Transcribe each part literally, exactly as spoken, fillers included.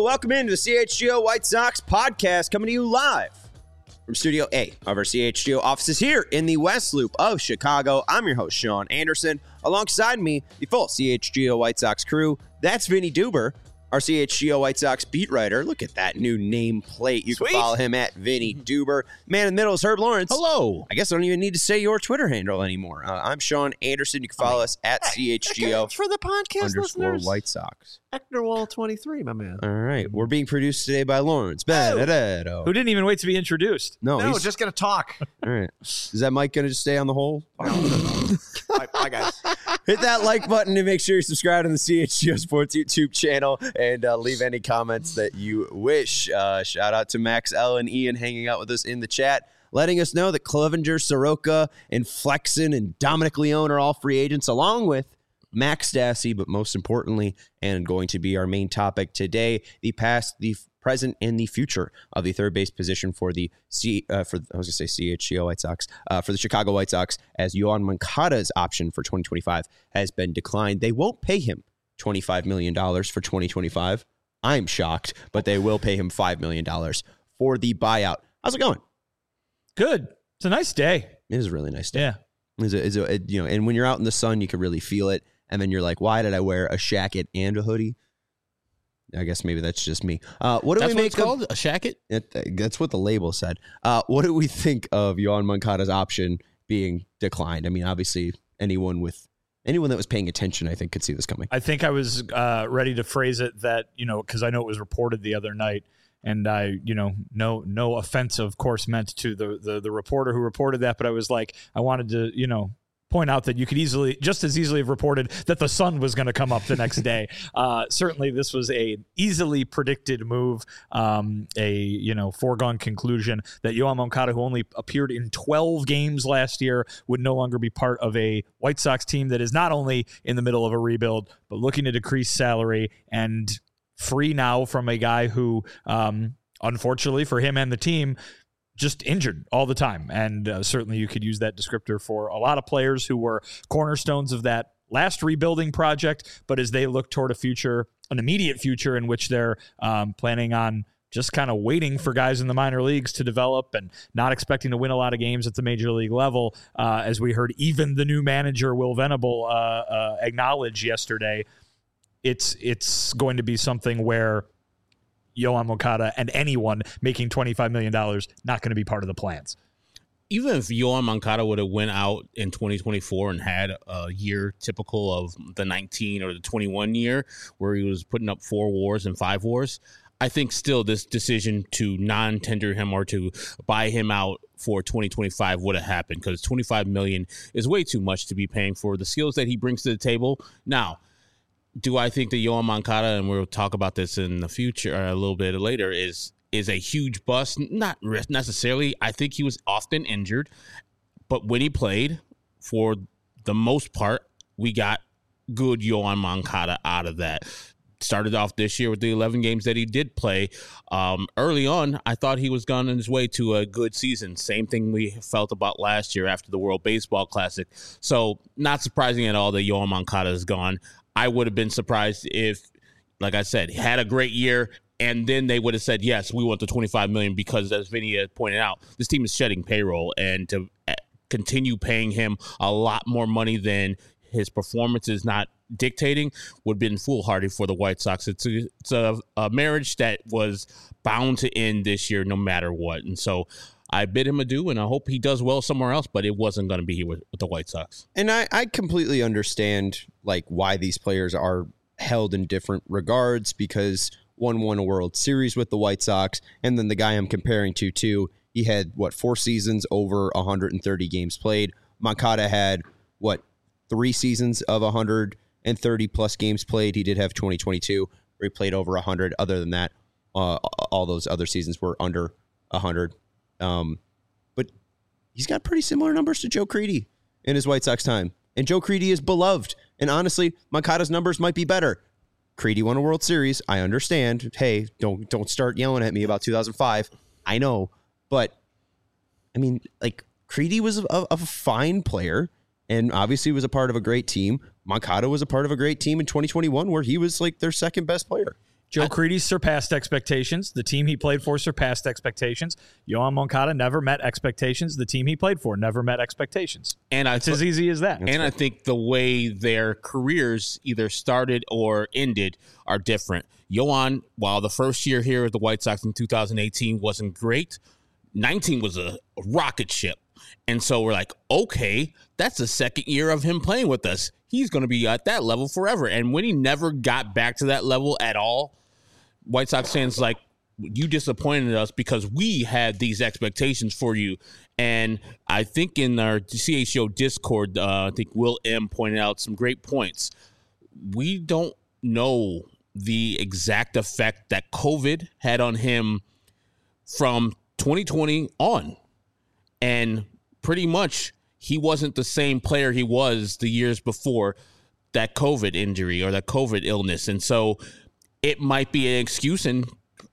welcome into the C H G O White Sox podcast, coming to you live from Studio A of our C H G O offices here in the West Loop of Chicago. I'm your host, Sean Anderson. Alongside me, the full C H G O White Sox crew. That's Vinny Duber, our C H G O White Sox beat writer. Look at that new nameplate. You Sweet. Can follow him at Vinny Duber. Man in the middle is Herb Lawrence. Hello. I guess I don't even need to say your Twitter handle anymore. Uh, I'm Sean Anderson. You can follow I mean, us at hey, C H G O for the podcast underscore listeners. White Sox. Ectorwall twenty-three, my man. All right. We're being produced today by Lawrence Benedetto. Who didn't even wait to be introduced. No, no he's just going to talk. All right. Is that mic going to stay on the hole? Bye, bye, guys. Hit that like button and make sure you subscribe to the C H G O Sports YouTube channel and uh, leave any comments that you wish. Uh, shout out to Max L and Ian hanging out with us in the chat, letting us know that Clevenger, Soroka, and Flexen and Dominic Leone are all free agents, along with Max Stassi, but most importantly, and going to be our main topic today, the past, the present, and the future of the third base position for the C uh, for I was gonna say C H G O White Sox uh, for the Chicago White Sox, as Yoan Moncada's option for twenty twenty-five has been declined. They won't pay him twenty-five million dollars for twenty twenty-five. I'm shocked, but they will pay him five million dollars for the buyout. How's it going? Good. It's a nice day. It is a really nice day. Yeah. It's a, it's a, it, you know, and when you're out in the sun, you can really feel it. And then you're like, why did I wear a shacket and a hoodie? I guess maybe that's just me. Uh, what do that's we what make it's called? A shacket? It, that's what the label said. Uh, what do we think of Yoan Moncada's option being declined? I mean, obviously, anyone with anyone that was paying attention, I think, could see this coming. I think I was uh, ready to phrase it that, you know, because I know it was reported the other night. And I, you know, no no offense, of course, meant to the, the the reporter who reported that. But I was like, I wanted to, you know, point out that you could easily, just as easily have reported that the sun was going to come up the next day. Uh, certainly, this was a easily predicted move, um, a you know foregone conclusion that Yoan Moncada, who only appeared in twelve games last year, would no longer be part of a White Sox team that is not only in the middle of a rebuild, but looking to decrease salary and free now from a guy who, um, unfortunately for him and the team, just injured all the time. And uh, certainly you could use that descriptor for a lot of players who were cornerstones of that last rebuilding project. But as they look toward a future, an immediate future in which they're um, planning on just kind of waiting for guys in the minor leagues to develop and not expecting to win a lot of games at the major league level, uh, as we heard even the new manager, Will Venable, uh, uh, acknowledge yesterday, it's it's going to be something where Yoan Moncada and anyone making twenty-five million dollars not going to be part of the plans. Even if Yoan Moncada would have went out in twenty twenty-four and had a year typical of the nineteen or the twenty-one year where he was putting up four wars and five wars, I think still this decision to non-tender him or to buy him out for twenty twenty-five would have happened, because twenty-five million dollars is way too much to be paying for the skills that he brings to the table. Now, do I think that Yoan Moncada, and we'll talk about this in the future or a little bit later, is is a huge bust? Not necessarily. I think he was often injured, but when he played, for the most part, we got good Yoan Moncada out of that. Started off this year with the eleven games that he did play. Um, early on, I thought he was gone on his way to a good season. Same thing we felt about last year after the World Baseball Classic. So not surprising at all that Yoan Moncada is gone. I would have been surprised if, like I said, had a great year, and then they would have said, yes, we want the twenty-five million dollars, because, as Vinny had pointed out, this team is shedding payroll, and to continue paying him a lot more money than his performance is not dictating would have been foolhardy for the White Sox. It's a, it's a, a marriage that was bound to end this year no matter what. And so I bid him adieu, and I hope he does well somewhere else, but it wasn't going to be here with, with the White Sox. And I, I completely understand like why these players are held in different regards, because one won a World Series with the White Sox, and then the guy I'm comparing to, too, he had, what, four seasons over one hundred thirty games played. Moncada had, what, three seasons of one hundred thirty plus games played. He did have twenty twenty-two where he played over one hundred. Other than that, uh, all those other seasons were under one hundred. Um, but he's got pretty similar numbers to Joe Crede in his White Sox time. And Joe Crede is beloved. And honestly, Moncada's numbers might be better. Crede won a World Series. I understand. Hey, don't don't start yelling at me about two thousand five. I know. But, I mean, like, Crede was a, a fine player and obviously was a part of a great team. Moncada was a part of a great team in twenty twenty-one where he was, like, their second best player. Joe Crede surpassed expectations. The team he played for surpassed expectations. Yoan Moncada never met expectations. The team he played for never met expectations. And I it's th- as easy as that. And I think the way their careers either started or ended are different. Yoan, while the first year here at the White Sox in two thousand eighteen wasn't great, nineteen was a rocket ship. And so we're like, okay, that's the second year of him playing with us. He's going to be at that level forever. And when he never got back to that level at all, White Sox fans like, you disappointed us because we had these expectations for you. And I think in our C H O Discord, uh, I think Will M pointed out some great points. We don't know the exact effect that COVID had on him from twenty twenty on. And pretty much he wasn't the same player he was the years before that COVID injury or that COVID illness. And so it might be an excuse, and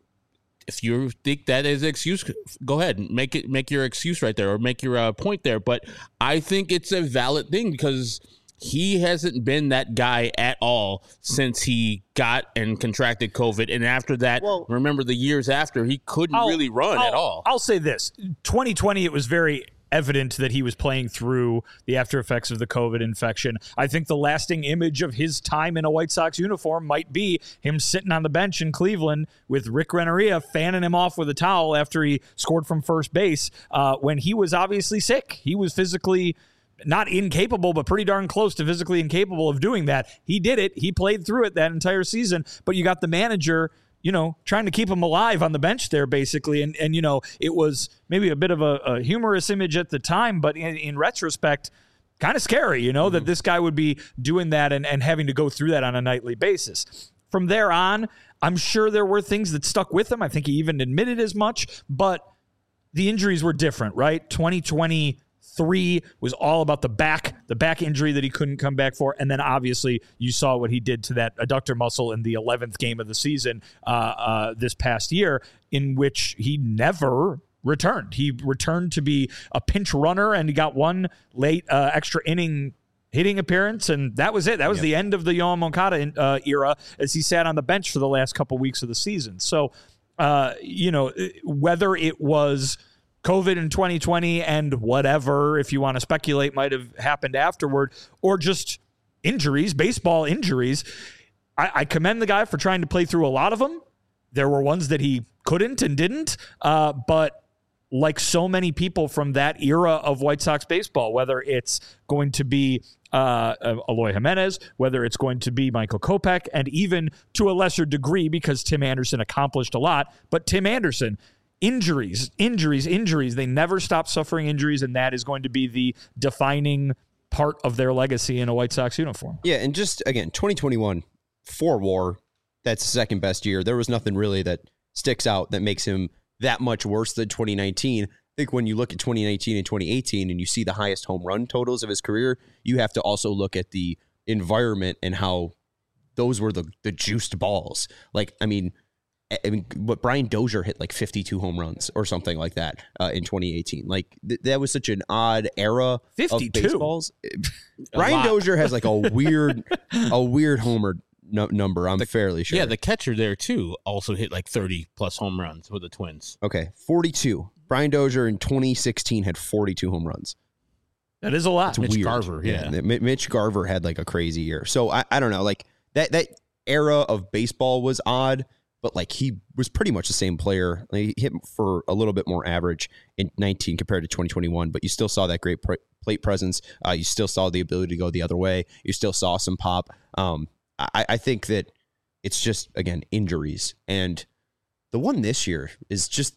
if you think that is an excuse, go ahead and make it make your excuse right there or make your uh, point there. But I think it's a valid thing because he hasn't been that guy at all since he got and contracted COVID. And after that, well, remember the years after, he couldn't I'll, really run I'll, at all. I'll say this. twenty twenty, it was very evident that he was playing through the after effects of the COVID infection. I think the lasting image of his time in a White Sox uniform might be him sitting on the bench in Cleveland with Rick Renneria fanning him off with a towel after he scored from first base uh, when he was obviously sick. He was physically not incapable, but pretty darn close to physically incapable of doing that. He did it. He played through it that entire season, but you got the manager, you know, trying to keep him alive on the bench there, basically. And, and you know, it was maybe a bit of a, a humorous image at the time, but in, in retrospect, kind of scary, you know, mm-hmm. that this guy would be doing that and, and having to go through that on a nightly basis. From there on, I'm sure there were things that stuck with him. I think he even admitted as much, but the injuries were different, right? twenty twenty Three was all about the back, the back injury that he couldn't come back for. And then obviously you saw what he did to that adductor muscle in the eleventh game of the season uh, uh, this past year, in which he never returned. He returned to be a pinch runner, and he got one late uh, extra inning hitting appearance, and that was it. That was yep. the end of the Yoan Moncada uh, era as he sat on the bench for the last couple weeks of the season. So, uh, you know, whether it was COVID in twenty twenty and whatever, if you want to speculate, might have happened afterward, or just injuries, baseball injuries. I, I commend the guy for trying to play through a lot of them. There were ones that he couldn't and didn't, uh, but like so many people from that era of White Sox baseball, whether it's going to be uh, Eloy Jimenez, whether it's going to be Michael Kopech, and even to a lesser degree, because Tim Anderson accomplished a lot, but Tim Anderson, Injuries, injuries, injuries. They never stop suffering injuries, and that is going to be the defining part of their legacy in a White Sox uniform. Yeah, and just, again, twenty twenty-one, for WAR, that's the second best year. There was nothing really that sticks out that makes him that much worse than twenty nineteen. I think when you look at twenty nineteen and twenty eighteen and you see the highest home run totals of his career, you have to also look at the environment and how those were the, the juiced balls. Like, I mean... I mean, what Brian Dozier hit like fifty-two home runs or something like that uh, in twenty eighteen. Like th- that was such an odd era fifty-two. Of baseballs. Brian Dozier has like a weird, a weird homer no- number. I'm the, fairly sure. Yeah, the catcher there too also hit like thirty plus home runs with the Twins. Okay, forty-two. Brian Dozier in twenty sixteen had forty-two home runs. That is a lot. It's Mitch weird. Garver, yeah. yeah. Mitch Garver had like a crazy year. So I, I don't know. Like that that era of baseball was odd. But like he was pretty much the same player. Like, he hit for a little bit more average in nineteen compared to twenty twenty-one. But you still saw that great pr- plate presence. Uh, you still saw the ability to go the other way. You still saw some pop. Um, I, I think that it's just, again, injuries. And the one this year is just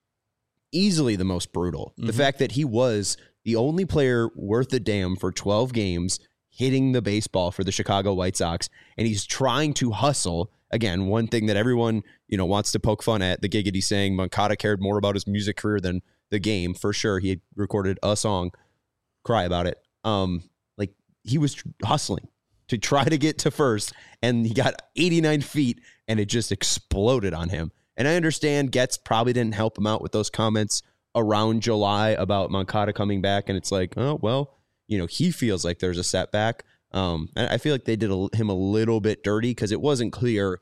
easily the most brutal. Mm-hmm. The fact that he was the only player worth a damn for twelve games hitting the baseball for the Chicago White Sox, and he's trying to hustle. Again, one thing that everyone, you know, wants to poke fun at, the Giggity saying Moncada cared more about his music career than the game. For sure, he had recorded a song, Cry About It. Um, like, he was tr- hustling to try to get to first, and he got eighty-nine feet, and it just exploded on him. And I understand Getz probably didn't help him out with those comments around July about Moncada coming back, and it's like, oh, well, you know, he feels like there's a setback. Um, and I feel like they did a, him a little bit dirty because it wasn't clear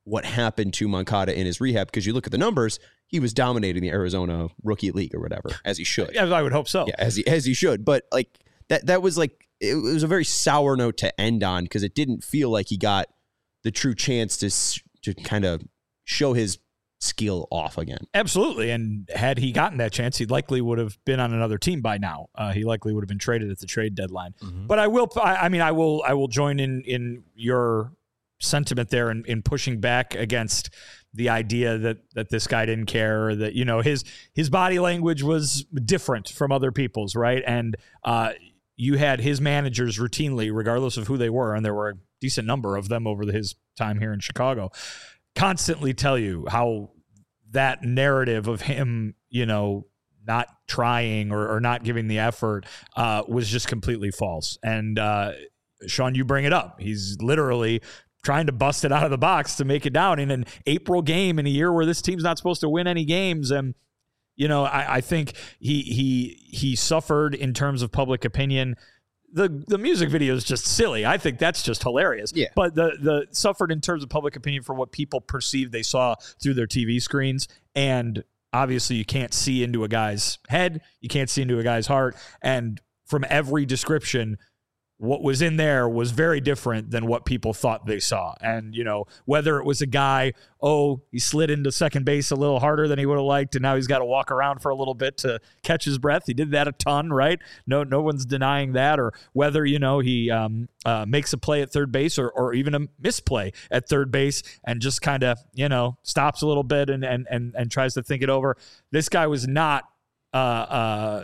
what happened to Moncada in his rehab, because you look at the numbers, he was dominating the Arizona Rookie League or whatever, as he should. Yeah, I would hope so. Yeah, as he as he should. But like that that was like it was a very sour note to end on, because it didn't feel like he got the true chance to to kind of show his skill off again. Absolutely. And had he gotten that chance, he likely would have been on another team by now. Uh, he likely would have been traded at the trade deadline. Mm-hmm. But I will, I, I mean, I will, I will join in, in your sentiment there in, in pushing back against the idea that, that this guy didn't care, or that, you know, his, his body language was different from other people's. Right. And uh, you had his managers routinely, regardless of who they were, and there were a decent number of them over his time here in Chicago, constantly tell you how that narrative of him, you know, not trying or, or not giving the effort uh, was just completely false. And uh, Sean, you bring it up. He's literally trying to bust it out of the box to make it down in an April game in a year where this team's not supposed to win any games. And, you know, I, I think he he he suffered in terms of public opinion. The the music video is just silly. I think that's just hilarious. Yeah. But the the suffered in terms of public opinion for what people perceived they saw through their T V screens. And obviously you can't see into a guy's head. You can't see into a guy's heart. And from every description, what was in there was very different than what people thought they saw. And, you know, whether it was a guy, oh, he slid into second base a little harder than he would have liked, and now he's got to walk around for a little bit to catch his breath. He did that a ton, right? No, no one's denying that. Or whether, you know, he um, uh, makes a play at third base, or or even a misplay at third base and just kind of, you know, stops a little bit and and and and tries to think it over. This guy was not, uh, uh,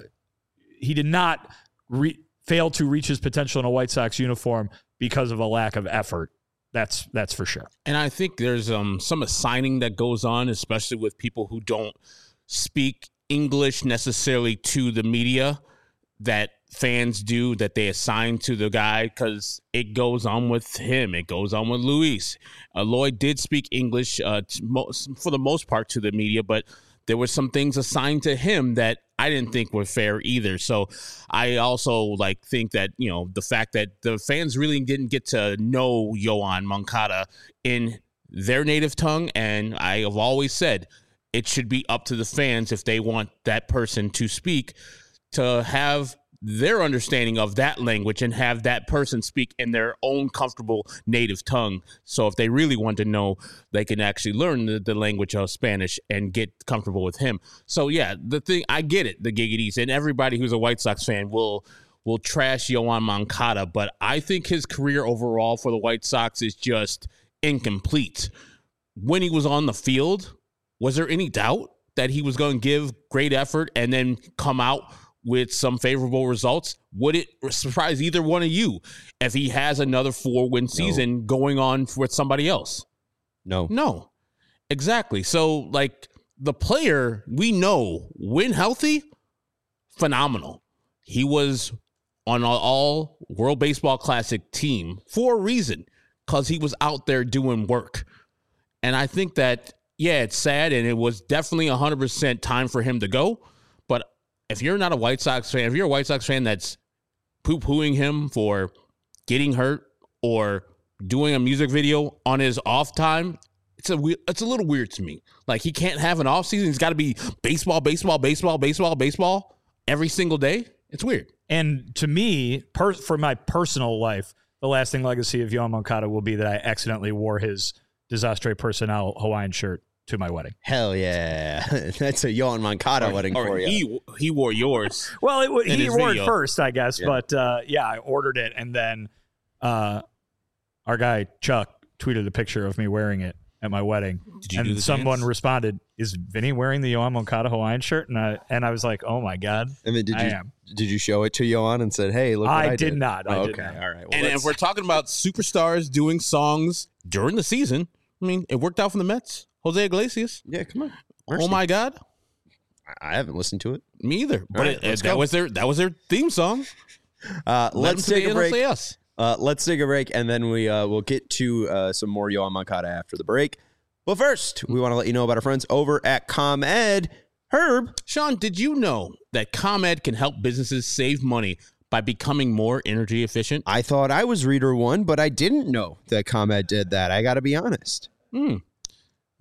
he did not re- fail to reach his potential in a White Sox uniform because of a lack of effort. That's that's for sure. And I think there's um, some assigning that goes on, especially with people who don't speak English necessarily to the media, that fans do, that they assign to the guy, because it goes on with him. It goes on with Luis. Uh, Lloyd did speak English uh, to most, for the most part to the media, but there were some things assigned to him that I didn't think were fair either. So I also like think that, you know, the fact that the fans really didn't get to know Yoan Moncada in their native tongue. And I have always said it should be up to the fans, if they want that person to speak, to have their understanding of that language and have that person speak in their own comfortable native tongue. So if they really want to know, they can actually learn the, the language of Spanish and get comfortable with him. So yeah, the thing, I get it, the giggities, and everybody who's a White Sox fan will will trash Yoan Moncada, but I think his career overall for the White Sox is just incomplete. When he was on the field, was there any doubt that he was going to give great effort and then come out with some favorable results? Would it surprise either one of you if he has another four-win season no. going on with somebody else? No. No. Exactly. So, like, the player, we know, when healthy, phenomenal. He was on an all-World Baseball Classic team for a reason, because he was out there doing work. And I think that, yeah, it's sad, and it was definitely one hundred percent time for him to go. But if you're not a White Sox fan, if you're a White Sox fan that's poo-pooing him for getting hurt or doing a music video on his off time, it's a it's a little weird to me. Like, he can't have an off season. He's got to be baseball, baseball, baseball, baseball, baseball every single day. It's weird. And to me, per, for my personal life, the lasting legacy of Yoan Moncada will be that I accidentally wore his Desastre Personnel Hawaiian shirt to my wedding. Hell yeah. That's a Yoan Moncada or, wedding or for you. He, he wore yours. Well, it, he wore video. it first, I guess. Yeah. But, uh, yeah, I ordered it. And then uh, our guy, Chuck, tweeted a picture of me wearing it at my wedding. Did you and do the someone dance? responded, is Vinny wearing the Yoan Moncada Hawaiian shirt? And I and I was like, oh, my God. And then did I you am. did you show it to Yoan and said, hey, look what I, I did? did not. I Oh, did okay. not. All right. Well, And let's- if we're talking about superstars doing songs during the season, I mean, it worked out for the Mets. Jose Iglesias. yeah, come on. Oh Mercy. my God. I haven't listened to it. Me either. But right, it, let's that go. was their that was their theme song. Uh, Let let's them take say a it, break. they'll say yes. Uh, let's take a break, and then we uh, we'll get to uh, some more Yoan Moncada after the break. But first, we want to let you know about our friends over at ComEd. Herb, Sean, did you know that ComEd can help businesses save money by becoming more energy efficient? I thought I was reader one, but I didn't know that ComEd did that. I got to be honest. Hmm.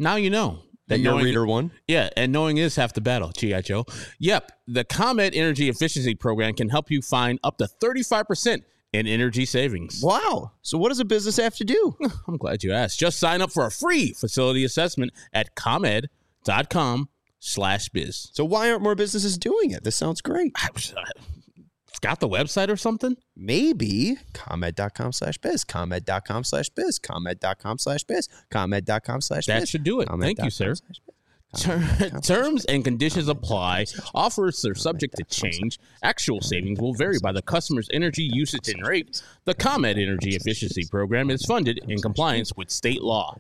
Now you know. That And your knowing- reader won? Yeah, and knowing is half the battle, G I. Joe. Yep, the ComEd Energy Efficiency Program can help you find up to thirty-five percent in energy savings. Wow. So what does a business have to do? I'm glad you asked. Just sign up for a free facility assessment at ComEd.com slash biz. So why aren't more businesses doing it? This sounds great. I was, uh, it's got the website or something? Maybe ComEd.com slash biz, ComEd.com slash biz, ComEd.com slash biz, ComEd.com slash biz. That should do it. Thank you, sir. ComEd.com slash biz. Ter- Terms and conditions apply. Offers are subject to change. Actual savings will vary by the customer's energy usage and rate. The ComEd Energy Efficiency Program is funded in compliance with state law.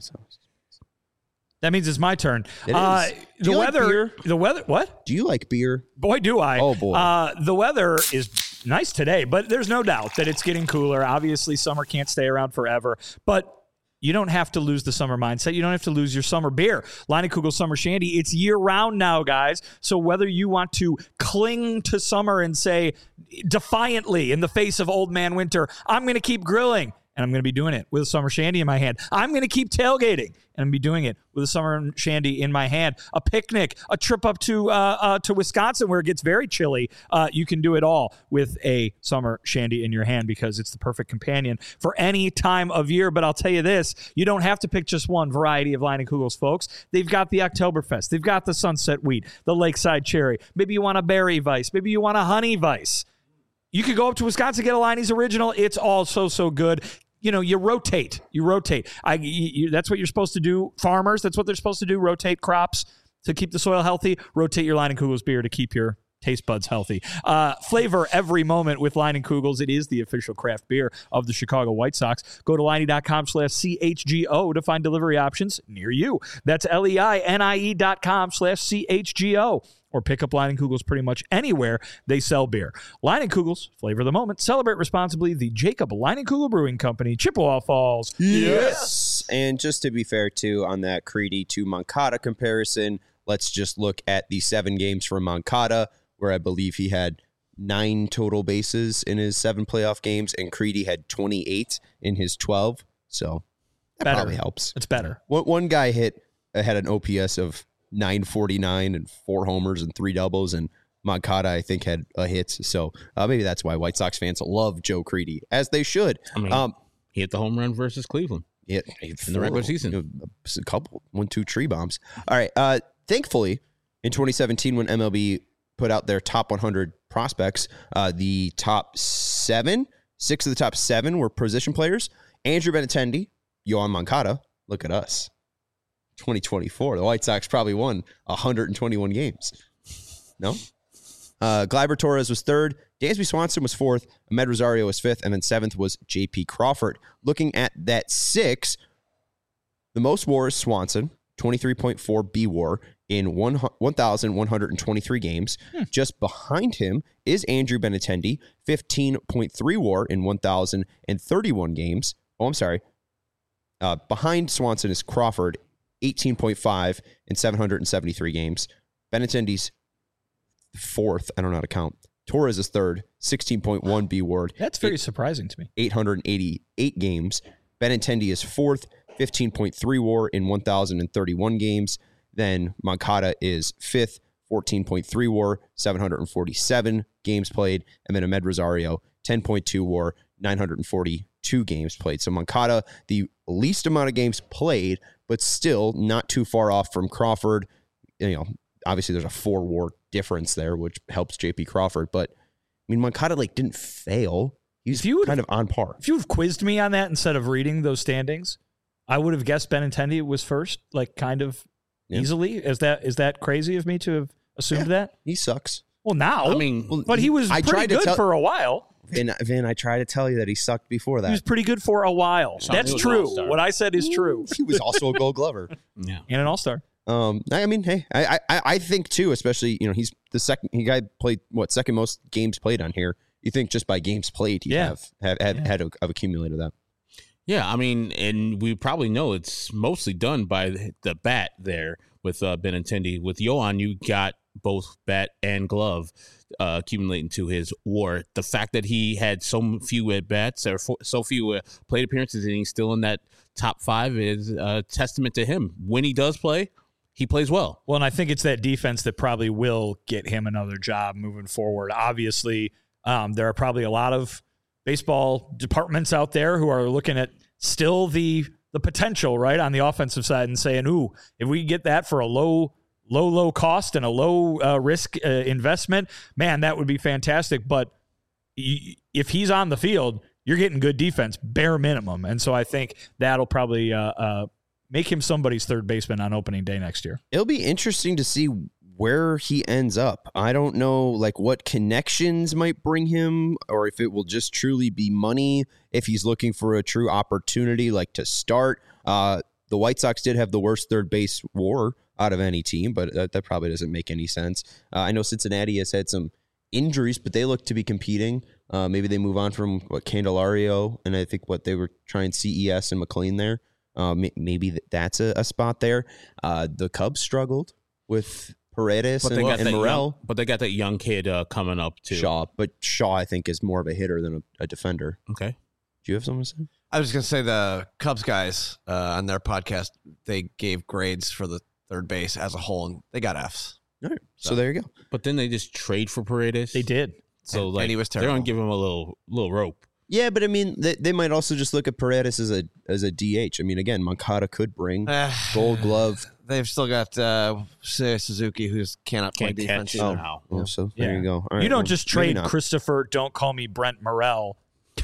That means it's my turn. It Uh, is. Do the you like weather. beer? The weather. What? Do you like beer? Boy, do I. Oh, boy. Uh, the weather is nice today, but there's no doubt that it's getting cooler. Obviously, summer can't stay around forever, but you don't have to lose the summer mindset. You don't have to lose your summer beer. Leinenkugel Summer Shandy, it's year-round now, guys. So whether you want to cling to summer and say defiantly in the face of old man winter, I'm going to keep grilling, and I'm going to be doing it with a summer shandy in my hand. I'm going to keep tailgating, and I'm going to be doing it with a summer shandy in my hand. A picnic, a trip up to uh, uh, to Wisconsin where it gets very chilly. Uh, you can do it all with a summer shandy in your hand because it's the perfect companion for any time of year. But I'll tell you this, you don't have to pick just one variety of Leinenkugels, folks. They've got the Oktoberfest. They've got the Sunset Wheat, the Lakeside Cherry. Maybe you want a berry Weiss. Maybe you want a honey Weiss. You could go up to Wisconsin, get a Leinie's Original. It's all so, so good. You know, you rotate. You rotate. I, you, you, that's what you're supposed to do. Farmers, that's what they're supposed to do. Rotate crops to keep the soil healthy. Rotate your Leinenkugels beer to keep your taste buds healthy. Uh, flavor every moment with Leinenkugels. It is the official craft beer of the Chicago White Sox. Go to Leinie.com slash C H G O to find delivery options near you. That's L-E-I-N-I-E dot com slash C H G O. Or pick up Leinenkugels pretty much anywhere they sell beer. Leinenkugels, flavor the moment. Celebrate responsibly. The Jacob Leinenkugel Brewing Company, Chippewa Falls. Yes. And just to be fair, too, on that Creedy to Moncada comparison, let's just look at the seven games from Moncada, where I believe he had nine total bases in his seven playoff games, and Creedy had twenty-eight in his twelve. So that Better. probably helps. It's better. One, one guy hit uh, had an O P S of nine forty-nine and four homers and three doubles, and Moncada, I think, had a hit. So uh, maybe that's why White Sox fans love Joe Creedy, as they should. I mean, um, he hit the home run versus Cleveland. Yeah, in the regular season. You know, a couple, one, two tree bombs. All right. Uh, thankfully, in twenty seventeen, when M L B put out their top one hundred prospects, uh, the top seven, six of the top seven were position players. Andrew Benintendi, Yoan Moncada. Look at us. twenty twenty-four. The White Sox probably won one hundred twenty-one games. No? Uh, Gleyber Torres was third. Dansby Swanson was fourth. Ahmed Rosario was fifth. And then seventh was J P Crawford. Looking at that six, the most WAR is Swanson, twenty-three point four B WAR in one thousand one hundred twenty-three games. Hmm. Just behind him is Andrew Benintendi, fifteen point three WAR in one thousand thirty-one games. Oh, I'm sorry. Uh, behind Swanson is Crawford, eighteen point five in seven hundred seventy-three games. Benintendi's fourth. I don't know how to count. Torres is third, sixteen point one B WAR. That's very eight, surprising to me. eight hundred eighty-eight games. Benintendi is fourth, fifteen point three WAR in one thousand thirty-one games. Then Moncada is fifth, fourteen point three WAR, seven hundred forty-seven games played. And then Ahmed Rosario, ten point two WAR, nine hundred forty-two games played. So Moncada, the least amount of games played, but still not too far off from Crawford. You know, obviously there's a four WAR difference there, which helps J P Crawford. But I mean, Moncada like didn't fail. He's kind of on par. If you would have quizzed me on that instead of reading those standings, I would have guessed Benintendi was first, like kind of yeah. easily. Is that is that crazy of me to have assumed yeah. that? He sucks. Well, now. I mean, but he was I pretty good tell, for a while. Vin, Vin, I try to tell you that he sucked before that. He was pretty good for a while. Sean, That's true. What I said is true. He was also a Gold Glover. Yeah. And an All-Star. Um, I mean, hey, I, I, I think too, especially, you know, he's the second, he guy played what second most games played on here. You think just by games played, you yeah. have have had, yeah. had to have accumulated that. Yeah, I mean, and we probably know it's mostly done by the, the bat there with uh, Benintendi. With Yoan, you got both bat and glove. uh, accumulating to his WAR. The fact that he had so few at bats or so few uh, plate appearances and he's still in that top five is a testament to him. When he does play, he plays well. Well, and I think it's that defense that probably will get him another job moving forward. Obviously, um, there are probably a lot of baseball departments out there who are looking at still the the potential, right, on the offensive side and saying, ooh, if we get that for a low, low, low cost and a low uh, risk uh, investment, man, that would be fantastic. But y- if he's on the field, you're getting good defense, bare minimum. And so I think that'll probably uh, uh, make him somebody's third baseman on opening day next year. It'll be interesting to see where he ends up. I don't know, like, what connections might bring him, or if it will just truly be money, if he's looking for a true opportunity, like, to start. Uh, the White Sox did have the worst third base WAR out of any team, but that, that probably doesn't make any sense. Uh, I know Cincinnati has had some injuries, but they look to be competing. Uh, maybe they move on from, what, Candelario, and I think, what, they were trying C E S and McLean there. Uh, maybe that's a, a spot there. Uh, the Cubs struggled with Paredes But and, they got and that Morel. young, but they got that young kid uh, coming up too. Shaw, but Shaw, I think, is more of a hitter than a, a defender. Okay. Do you have something to say? I was just going to say the Cubs guys uh, on their podcast, they gave grades for the third base as a whole, and they got Fs. All right. So, So- there you go. But then they just trade for Paredes. They did. So And- like and he was they're gonna terrible. give him a little little rope. Yeah, but I mean, they, they might also just look at Paredes as a as a D H. I mean, again, Moncada could bring Gold Glove. They've still got uh, Suzuki, who cannot play Can't defense catch either. now. Oh, so there Yeah. you go. All right, You don't well, just maybe trade not. Christopher, don't call me Brent Morel,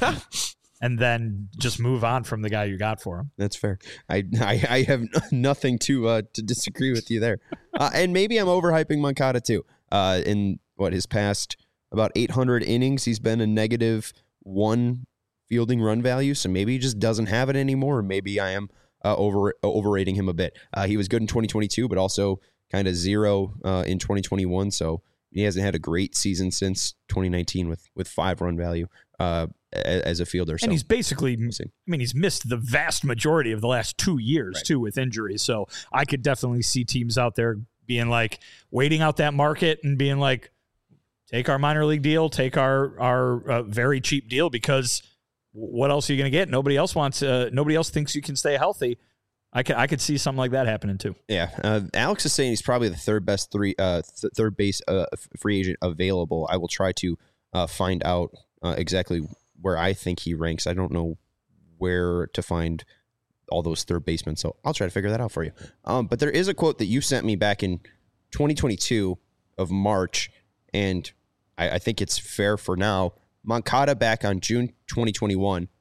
and then just move on from the guy you got for him. That's fair. I I, I have nothing to uh, to disagree with you there. Uh, and maybe I'm overhyping Moncada too. Uh, in what his past about eight hundred innings, he's been a negative one fielding run value. So maybe he just doesn't have it anymore. Or maybe I am uh, over overrating him a bit. Uh, he was good in twenty twenty-two, but also kind of zero uh, in twenty twenty-one. So he hasn't had a great season since twenty nineteen with with five run value uh, as a fielder. So And he's basically, see. I mean, he's missed the vast majority of the last two years, Right. too, with injuries. So I could definitely see teams out there being like, waiting out that market and being like, take our minor league deal, take our, our uh, very cheap deal, because what else are you going to get? Nobody else wants, uh, nobody else thinks you can stay healthy. I could, I could see something like that happening, too. Yeah, uh, Alex is saying he's probably the third best three uh, th- third base uh, f- free agent available. I will try to uh, find out uh, exactly where I think he ranks. I don't know where to find all those third basemen, so I'll try to figure that out for you. Um, but there is a quote that you sent me back in twenty twenty-two of March, and I, I think it's fair for now. Moncada back on June twenty twenty-one.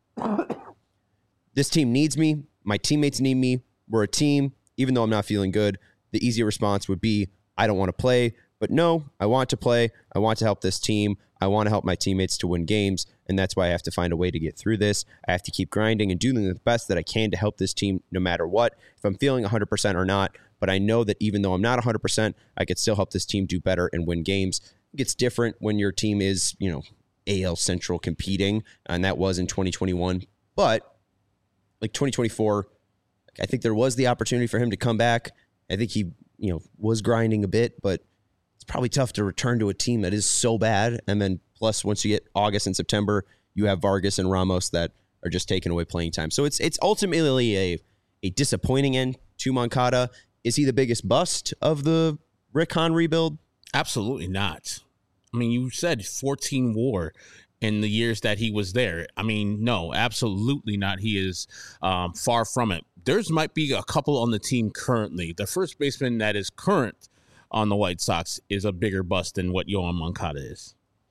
This team needs me. My teammates need me. We're a team. Even though I'm not feeling good, the easy response would be, I don't want to play. But no, I want to play. I want to help this team. I want to help my teammates to win games. And that's why I have to find a way to get through this. I have to keep grinding and doing the best that I can to help this team no matter what, if I'm feeling one hundred percent or not. But I know that even though I'm not one hundred percent, I could still help this team do better and win games. It gets different when your team is, you know, A L Central competing. And that was in twenty twenty-one. But like twenty twenty-four, I think there was the opportunity for him to come back. I think he, you know, was grinding a bit, but it's probably tough to return to a team that is so bad. And then plus, once you get August and September, you have Vargas and Ramos that are just taking away playing time. So it's it's ultimately a a disappointing end to Moncada. Is he the biggest bust of the Rick Hahn rebuild? Absolutely not. I mean, you said fourteen WAR in the years that he was there. I mean, no, absolutely not. He is um, far from it. There's might be a couple on the team currently. The first baseman that is current on the White Sox is a bigger bust than what Yohan Moncada is.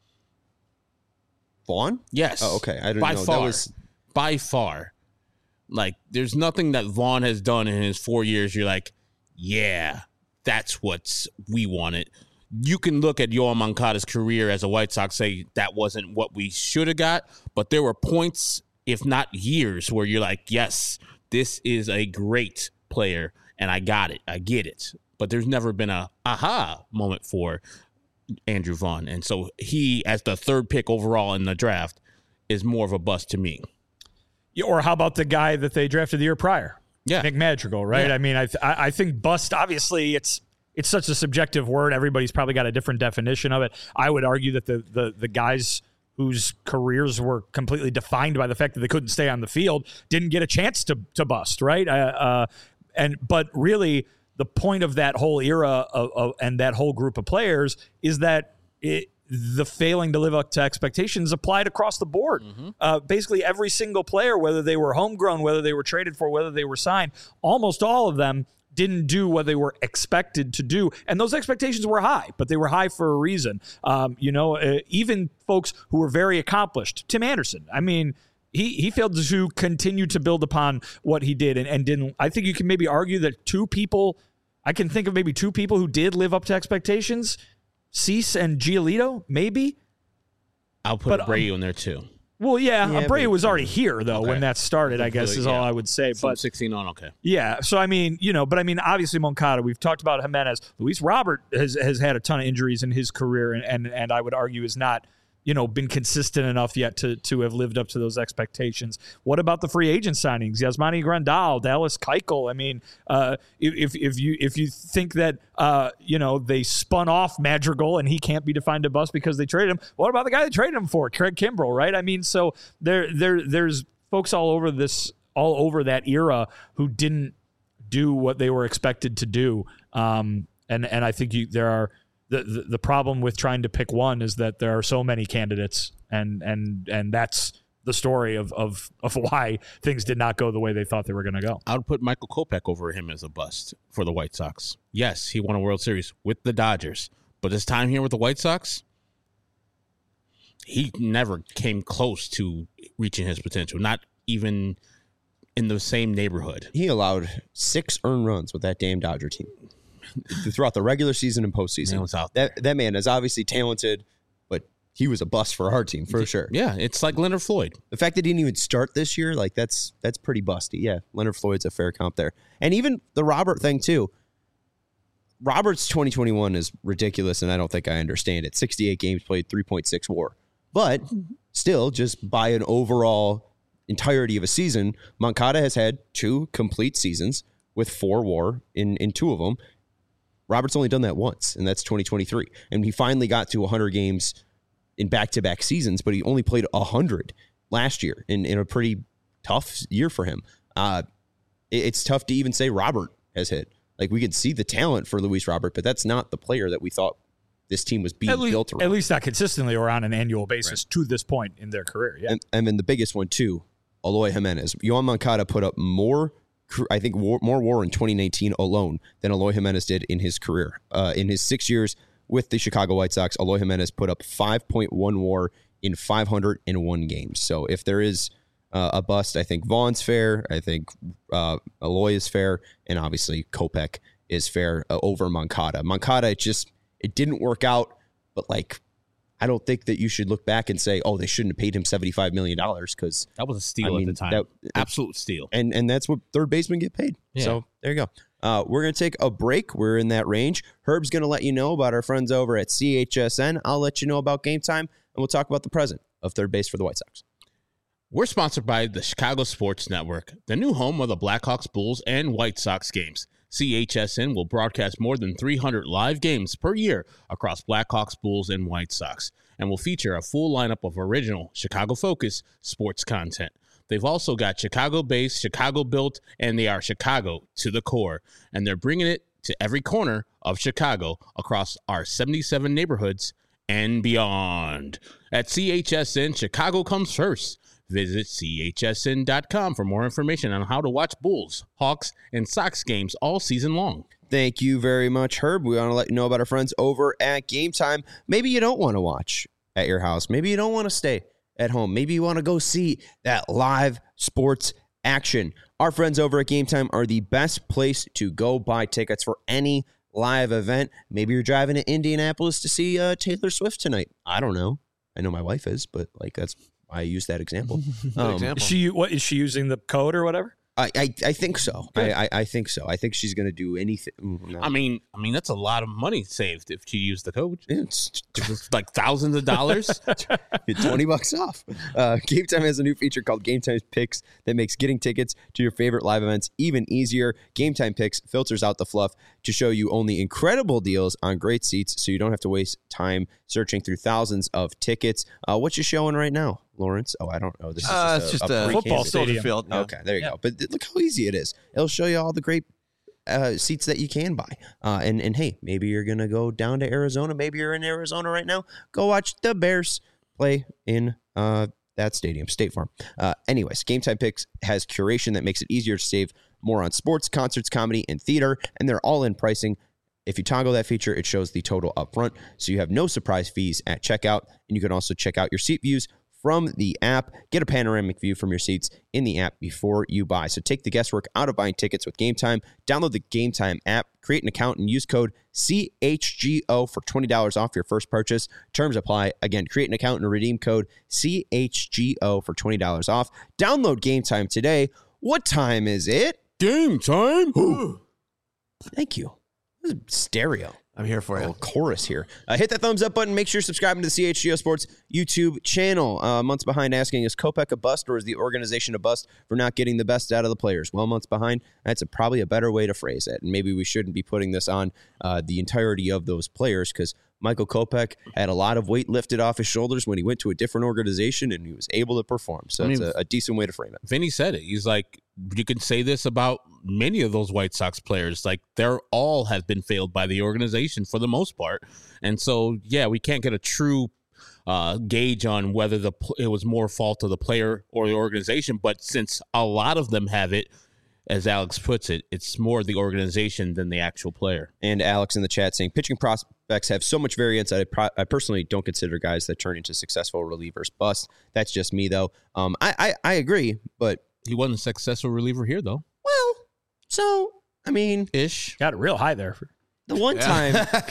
Vaughn? Yes. Oh, okay. I don't By know. far. That was By far. Like, there's nothing that Vaughn has done in his four years. You're like, yeah, that's what we wanted. You can look at Yohan Moncada's career as a White Sox, say that wasn't what we should have got, but there were points, if not years, where you're like, yes, this is a great player, and I got it. I get it. But there's never been a aha moment for Andrew Vaughn. And so he, as the third pick overall in the draft, is more of a bust to me. Yeah, or how about the guy that they drafted the year prior? Yeah. Nick Madrigal, right? Yeah. I mean, I, th- I I think bust, obviously, it's it's such a subjective word. Everybody's probably got a different definition of it. I would argue that the the the guys whose careers were completely defined by the fact that they couldn't stay on the field didn't get a chance to to bust, right? Uh, uh, and but really, the point of that whole era of, of and that whole group of players is that it, the failing to live up to expectations applied across the board. Mm-hmm. Uh, basically, every single player, whether they were homegrown, whether they were traded for, whether they were signed, almost all of them didn't do what they were expected to do. And those expectations were high, but they were high for a reason. Um, you know, uh, even folks who were very accomplished, Tim Anderson, I mean, he he failed to continue to build upon what he did and, and didn't. I think you can maybe argue that two people, I can think of maybe two people who did live up to expectations, Cease and Giolito, maybe. I'll put but, Abreu um, in there too. Well, yeah, yeah Abreu was already here, though, okay. when that started, I guess, is yeah. all I would say. From but sixteen on, okay. Yeah, so, I mean, you know, but, I mean, obviously Moncada, we've talked about Jimenez. Luis Robert has, has had a ton of injuries in his career, and, and, and I would argue is not, you know, been consistent enough yet to to have lived up to those expectations. What about the free agent signings? Yasmani Grandal, Dallas Keuchel. I mean, uh, if if you if you think that uh, you know they spun off Madrigal and he can't be defined a bust because they traded him, what about the guy they traded him for, Craig Kimbrell? Right? I mean, so there there there's folks all over this all over that era who didn't do what they were expected to do, um, and and I think you there are. The, the the problem with trying to pick one is that there are so many candidates, and and and that's the story of of of why things did not go the way they thought they were going to go. I would put Michael Kopech over him as a bust for the White Sox. Yes, he won a World Series with the Dodgers, but his time here with the White Sox, he never came close to reaching his potential, not even in the same neighborhood. He allowed six earned runs with that damn Dodger team throughout the regular season and postseason. That that man is obviously talented, but he was a bust for our team for sure. Yeah, it's like Leonard Floyd. The fact that he didn't even start this year, like that's that's pretty busty. Yeah, Leonard Floyd's a fair comp there, and even the Robert thing too. Robert's twenty twenty-one is ridiculous, and I don't think I understand it. sixty-eight games played, three point six WAR, but still, just by an overall entirety of a season, Moncada has had two complete seasons with four WAR in in two of them. Robert's only done that once, and that's twenty twenty-three. And he finally got to one hundred games in back-to-back seasons, but he only played one hundred last year in, in a pretty tough year for him. Uh, it, it's tough to even say Robert has hit. Like, we could see the talent for Luis Robert, but that's not the player that we thought this team was being at least, built around. At least not consistently or on an annual basis right. to this point in their career. Yeah. And, and then the biggest one, too, Eloy Jimenez. Yohan Moncada put up more I think war, more WAR in twenty nineteen alone than Eloy Jimenez did in his career. Uh, in his six years with the Chicago White Sox, Eloy Jimenez put up five point one WAR in five hundred one games. So if there is uh, a bust, I think Vaughn's fair. I think uh, Eloy is fair. And obviously Kopech is fair uh, over Moncada. Moncada, it just, it didn't work out. But like, I don't think that you should look back and say, oh, they shouldn't have paid him seventy-five million dollars because that was a steal I mean, at the time. That, Absolute steal. And and that's what third basemen get paid. Yeah. So there you go. Uh, we're going to take a break. We're in that range. Herb's going to let you know about our friends over at C H S N. I'll let you know about Game Time, and we'll talk about the present of third base for the White Sox. We're sponsored by the Chicago Sports Network, the new home of the Blackhawks, Bulls, and White Sox games. C H S N will broadcast more than three hundred live games per year across Blackhawks, Bulls, and White Sox, and will feature a full lineup of original Chicago-focused sports content. They've also got Chicago-based, Chicago-built, and they are Chicago to the core, and they're bringing it to every corner of Chicago across our seventy-seven neighborhoods and beyond. At C H S N, Chicago comes first. Visit C H S N dot com for more information on how to watch Bulls, Hawks, and Sox games all season long. Thank you very much, Herb. We want to let you know about our friends over at Game Time. Maybe you don't want to watch at your house. Maybe you don't want to stay at home. Maybe you want to go see that live sports action. Our friends over at Game Time are the best place to go buy tickets for any live event. Maybe you're driving to Indianapolis to see uh, Taylor Swift tonight. I don't know. I know my wife is, but like that's I use that example. Um, example. Is she what is she using the code or whatever? I, I, I think so. I, I, I think so. I think she's going to do anything. No. I mean, I mean that's a lot of money saved if you use the code. It's It's like thousands of dollars. Get twenty bucks off. Uh, Game Time has a new feature called Game Time Picks that makes getting tickets to your favorite live events even easier. Game Time Picks filters out the fluff to show you only incredible deals on great seats, so you don't have to waste time searching through thousands of tickets. Uh, what's you showing right now, Lawrence? Oh, I don't know. This is Uh, just it's a, just a a pre- football Kansas. stadium. Field. Yeah. Okay, there you Yeah. go. But th- look how easy it is. It'll show you all the great uh, seats that you can buy. Uh, and, and hey, maybe you're going to go down to Arizona. Maybe you're in Arizona right now. Go watch the Bears play in uh, that stadium, State Farm. Uh, anyways, Game Time Picks has curation that makes it easier to save more on sports, concerts, comedy, and theater. And they're all in pricing. If you toggle that feature, it shows the total up front. So you have no surprise fees at checkout. And you can also check out your seat views from the app. Get a panoramic view from your seats in the app before you buy. So take the guesswork out of buying tickets with Game Time. Download the Game Time app, create an account, and use code C H G O for twenty dollars off your first purchase. Terms apply. Again, create an account and redeem code C H G O for twenty dollars off. Download Game Time today. What time is it? Game time. Thank you. This is stereo. I'm here for A you. little chorus here. Uh, hit that thumbs up button. Make sure you're subscribing to the C H G O Sports YouTube channel. Uh, months behind asking, is Kopech a bust or is the organization a bust for not getting the best out of the players? Well, months behind, that's a, probably a better way to phrase it. And maybe we shouldn't be putting this on uh, the entirety of those players because Michael Kopech had a lot of weight lifted off his shoulders when he went to a different organization and he was able to perform. So I it's mean, a, a decent way to frame it. Vinny said it. He's like, you can say this about many of those White Sox players. Like, they're all have been failed by the organization for the most part. And so, yeah, we can't get a true uh, gauge on whether the it was more fault of the player or the organization. But since a lot of them have it, as Alex puts it, it's more the organization than the actual player. And Alex in the chat saying, pitching prospects have so much variance. I, pro- I personally don't consider guys that turn into successful relievers bust. That's just me, though. Um, I, I, I agree, but He wasn't a successful reliever here, though. well, so I mean, Ish. Got it real high there. the one time,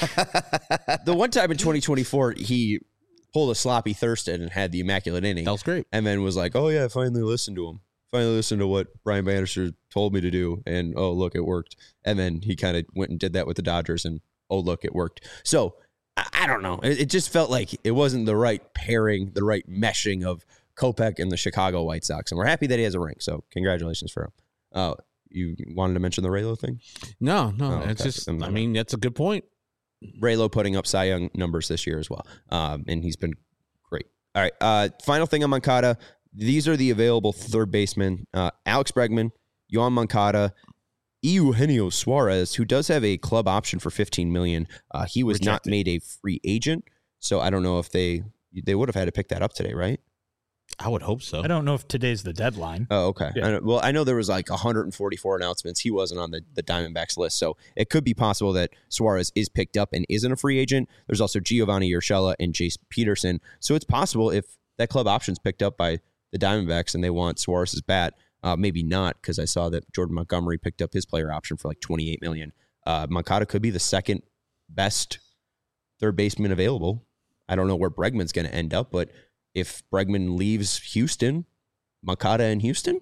the one time in twenty twenty-four, he pulled a sloppy Thurston and had the immaculate inning, That was great. and then was like, "Oh yeah, I finally listened to him. Finally listened to what Brian Bannister told me to do, and oh look, it worked." And then he kind of went and did that with the Dodgers, and oh look, it worked. So I, I don't know. It, it just felt like it wasn't the right pairing, the right meshing of Kopech and the Chicago White Sox, and we're happy that he has a ring. So congratulations for him. Uh, you wanted to mention the Raylo thing? No, no. Oh, it's okay. just, I'm I not- mean, that's a good point. Raylo putting up Cy Young numbers this year as well. Um, and he's been great. All right. Uh, final thing on Moncada. These are the available third basemen. Uh, Alex Bregman, Yoan Moncada, Eugenio Suarez, who does have a club option for fifteen million dollars. Uh, he was not Rejected. made a free agent. So I don't know if they, they would have had to pick that up today, right? I would hope so. I don't know if today's the deadline. Oh, okay. Yeah. I know- well, I know there was like one hundred forty-four announcements. He wasn't on the, the Diamondbacks list, so it could be possible that Suarez is picked up and isn't a free agent. There's also Giovanni Urshela and Jace Peterson, so it's possible if that club option's picked up by the Diamondbacks and they want Suarez's bat, uh, maybe not, because I saw that Jordan Montgomery picked up his player option for like twenty-eight million dollars. Uh, Moncada could be the second best third baseman available. I don't know where Bregman's going to end up, but if Bregman leaves Houston, Moncada in Houston?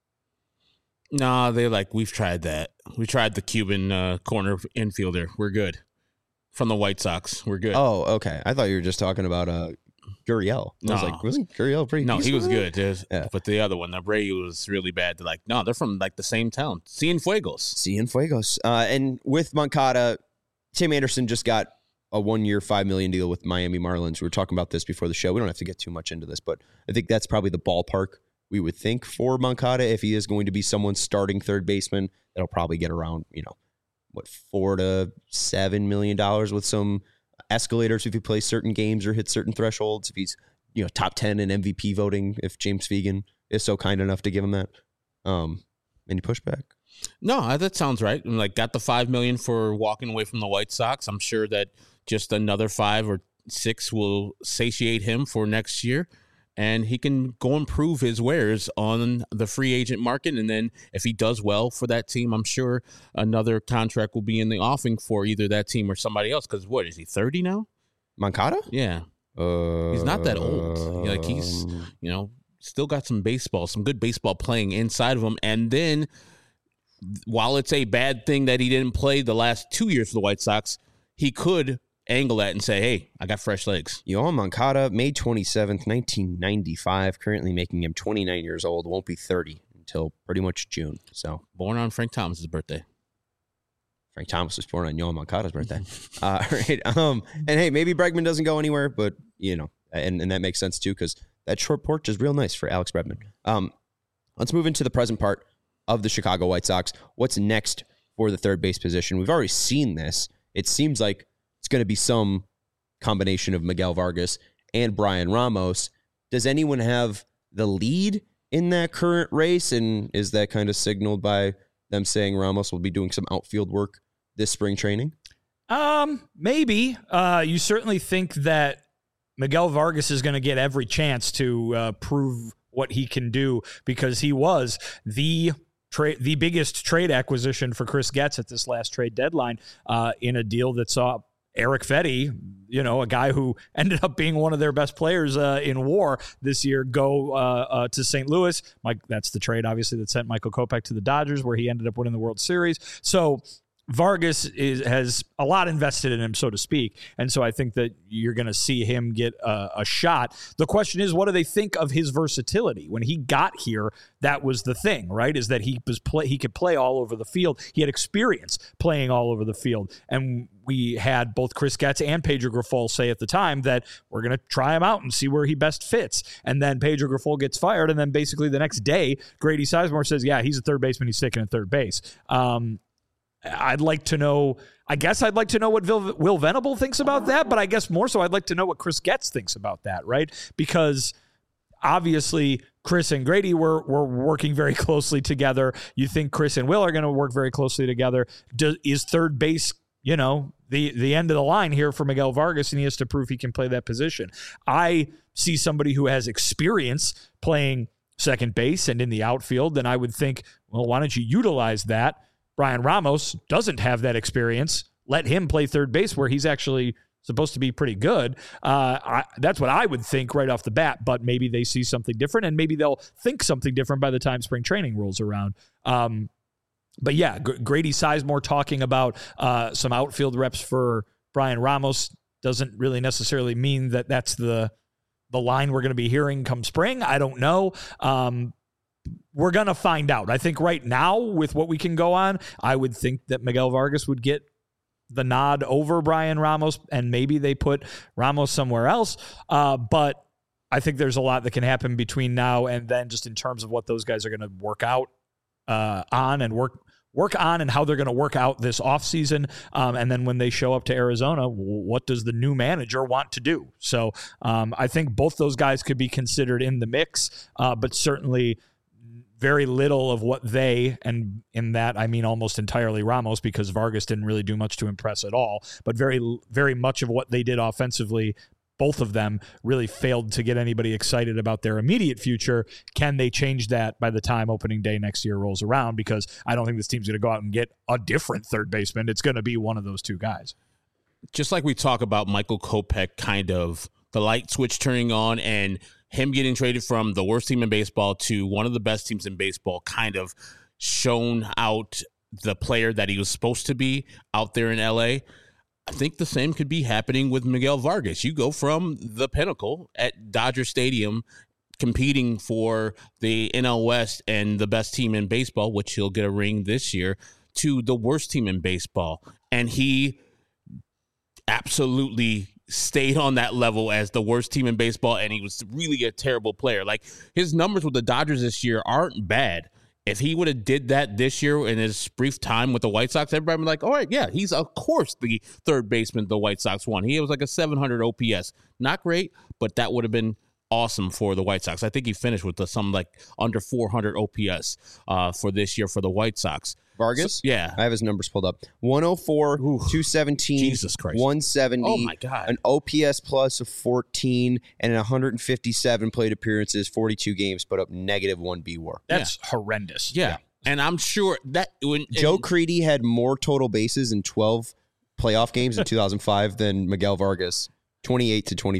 No, they like, we've tried that. We tried the Cuban uh, corner infielder. We're good. From the White Sox. We're good. Oh, okay. I thought you were just talking about uh, Gurriel. I was No. like, wasn't Gurriel pretty no, he decent was with good. There's- Yeah. But the other one, the Bray was really bad. They're like, no, they're from like the same town. Cienfuegos. Cienfuegos. Uh, and with Moncada, Tim Anderson just got a one-year, five million dollars deal with Miami Marlins. We were talking about this before the show. We don't have to get too much into this, but I think that's probably the ballpark we would think for Moncada if he is going to be someone's starting third baseman. That'll probably get around, you know, what, four to seven million dollars with some escalators if he plays certain games or hits certain thresholds. If he's, you know, top ten in M V P voting, if James Fegan is so kind enough to give him that. Um, any pushback? No, uh, that sounds right. And like, got the five million for walking away from the White Sox. I'm sure that just another five or six will satiate him for next year, and he can go improve his wares on the free agent market. And then if he does well for that team, I'm sure another contract will be in the offing for either that team or somebody else. Because what is he, thirty now? Moncada? Yeah, Uh, he's not that old. Like, he's, you know, still got some baseball, some good baseball playing inside of him. And then while it's a bad thing that he didn't play the last two years for the White Sox, he could angle that and say, hey, I got fresh legs. Yoan Moncada, May twenty-seventh, nineteen ninety-five, currently making him twenty-nine years old, won't be thirty until pretty much June. So born on Frank Thomas's birthday. Frank Thomas was born on Yoan Moncada's birthday. uh, right. Um, and hey, maybe Bregman doesn't go anywhere, but you know, and, and that makes sense too, because that short porch is real nice for Alex Bregman. Um, let's move into the present part of the Chicago White Sox. What's next for the third base position? We've already seen this. It seems like it's going to be some combination of Miguel Vargas and Brian Ramos. Does anyone have the lead in that current race? And is that kind of signaled by them saying Ramos will be doing some outfield work this spring training? Um, maybe. Uh, you certainly think that Miguel Vargas is going to get every chance to uh, prove what he can do, because he was the trade, the biggest trade acquisition for Chris Getz at this last trade deadline, uh, in a deal that saw Eric Fetty, you know, a guy who ended up being one of their best players uh, in WAR this year, go uh, uh, to Saint Louis. Mike, that's the trade, obviously, that sent Michael Kopech to the Dodgers, where he ended up winning the World Series. So Vargas is, has a lot invested in him, so to speak. And so I think that you're going to see him get a, a shot. The question is, what do they think of his versatility? When he got here, that was the thing, right? Is that he was play, he could play all over the field. He had experience playing all over the field. And we had both Chris Getz and Pedro Grifol say at the time that we're going to try him out and see where he best fits. And then Pedro Grifol gets fired. And then basically the next day, Grady Sizemore says, yeah, he's a third baseman. He's sticking at third base. Um, I'd like to know, I guess I'd like to know what Will, Will Venable thinks about that, but I guess more so I'd like to know what Chris Getz thinks about that, right? Because obviously Chris and Grady were, were working very closely together. You think Chris and Will are going to work very closely together. Do, is third base, you know, the, the end of the line here for Miguel Vargas, and he has to prove he can play that position. I see somebody who has experience playing second base and in the outfield, then I would think, well, why don't you utilize that? Brian Ramos doesn't have that experience. Let him play third base where he's actually supposed to be pretty good. Uh, I, that's what I would think right off the bat, but maybe they see something different, and maybe they'll think something different by the time spring training rolls around. Um, but yeah, G- Grady Sizemore talking about uh, some outfield reps for Brian Ramos doesn't really necessarily mean that that's the, the line we're going to be hearing come spring. I don't know. Um, We're going to find out. I think right now, with what we can go on, I would think that Miguel Vargas would get the nod over Brian Ramos, and maybe they put Ramos somewhere else. Uh, but I think there's a lot that can happen between now and then, just in terms of what those guys are going to work out uh, on and work work on and how they're going to work out this offseason. Um, and then when they show up to Arizona, what does the new manager want to do? So um, I think both those guys could be considered in the mix, uh, but certainly very little of what they, and in that I mean almost entirely Ramos, because Vargas didn't really do much to impress at all, but very, very much of what they did offensively, both of them really failed to get anybody excited about their immediate future. Can they change that by the time opening day next year rolls around? Because I don't think this team's going to go out and get a different third baseman. It's going to be one of those two guys. Just like we talk about Michael Kopech, kind of the light switch turning on and him getting traded from the worst team in baseball to one of the best teams in baseball, kind of shown out the player that he was supposed to be out there in L A. I think the same could be happening with Miguel Vargas. You go from the pinnacle at Dodger Stadium, competing for the N L West and the best team in baseball, which he'll get a ring this year, to the worst team in baseball. And he absolutely stayed on that level as the worst team in baseball, and he was really a terrible player. Like, his numbers with the Dodgers this year aren't bad. If he would have did that this year in his brief time with the White Sox, everybody would be like, all right, yeah, he's of course the third baseman the White Sox won. He was like a seven hundred O P S. Not great, but that would have been awesome for the White Sox. I think he finished with the, some like under four hundred O P S uh, for this year for the White Sox. Vargas? So, yeah. I have his numbers pulled up. one oh four, Ooh, two seventeen, Jesus Christ. one seventy, oh my God. An O P S plus of fourteen, and in one hundred fifty-seven plate appearances, forty-two games, put up negative one B W A R. That's yeah. horrendous. Yeah. yeah. And I'm sure that when Joe and, Crede had more total bases in twelve playoff games in two thousand five than Miguel Vargas, twenty-eight to twenty-three.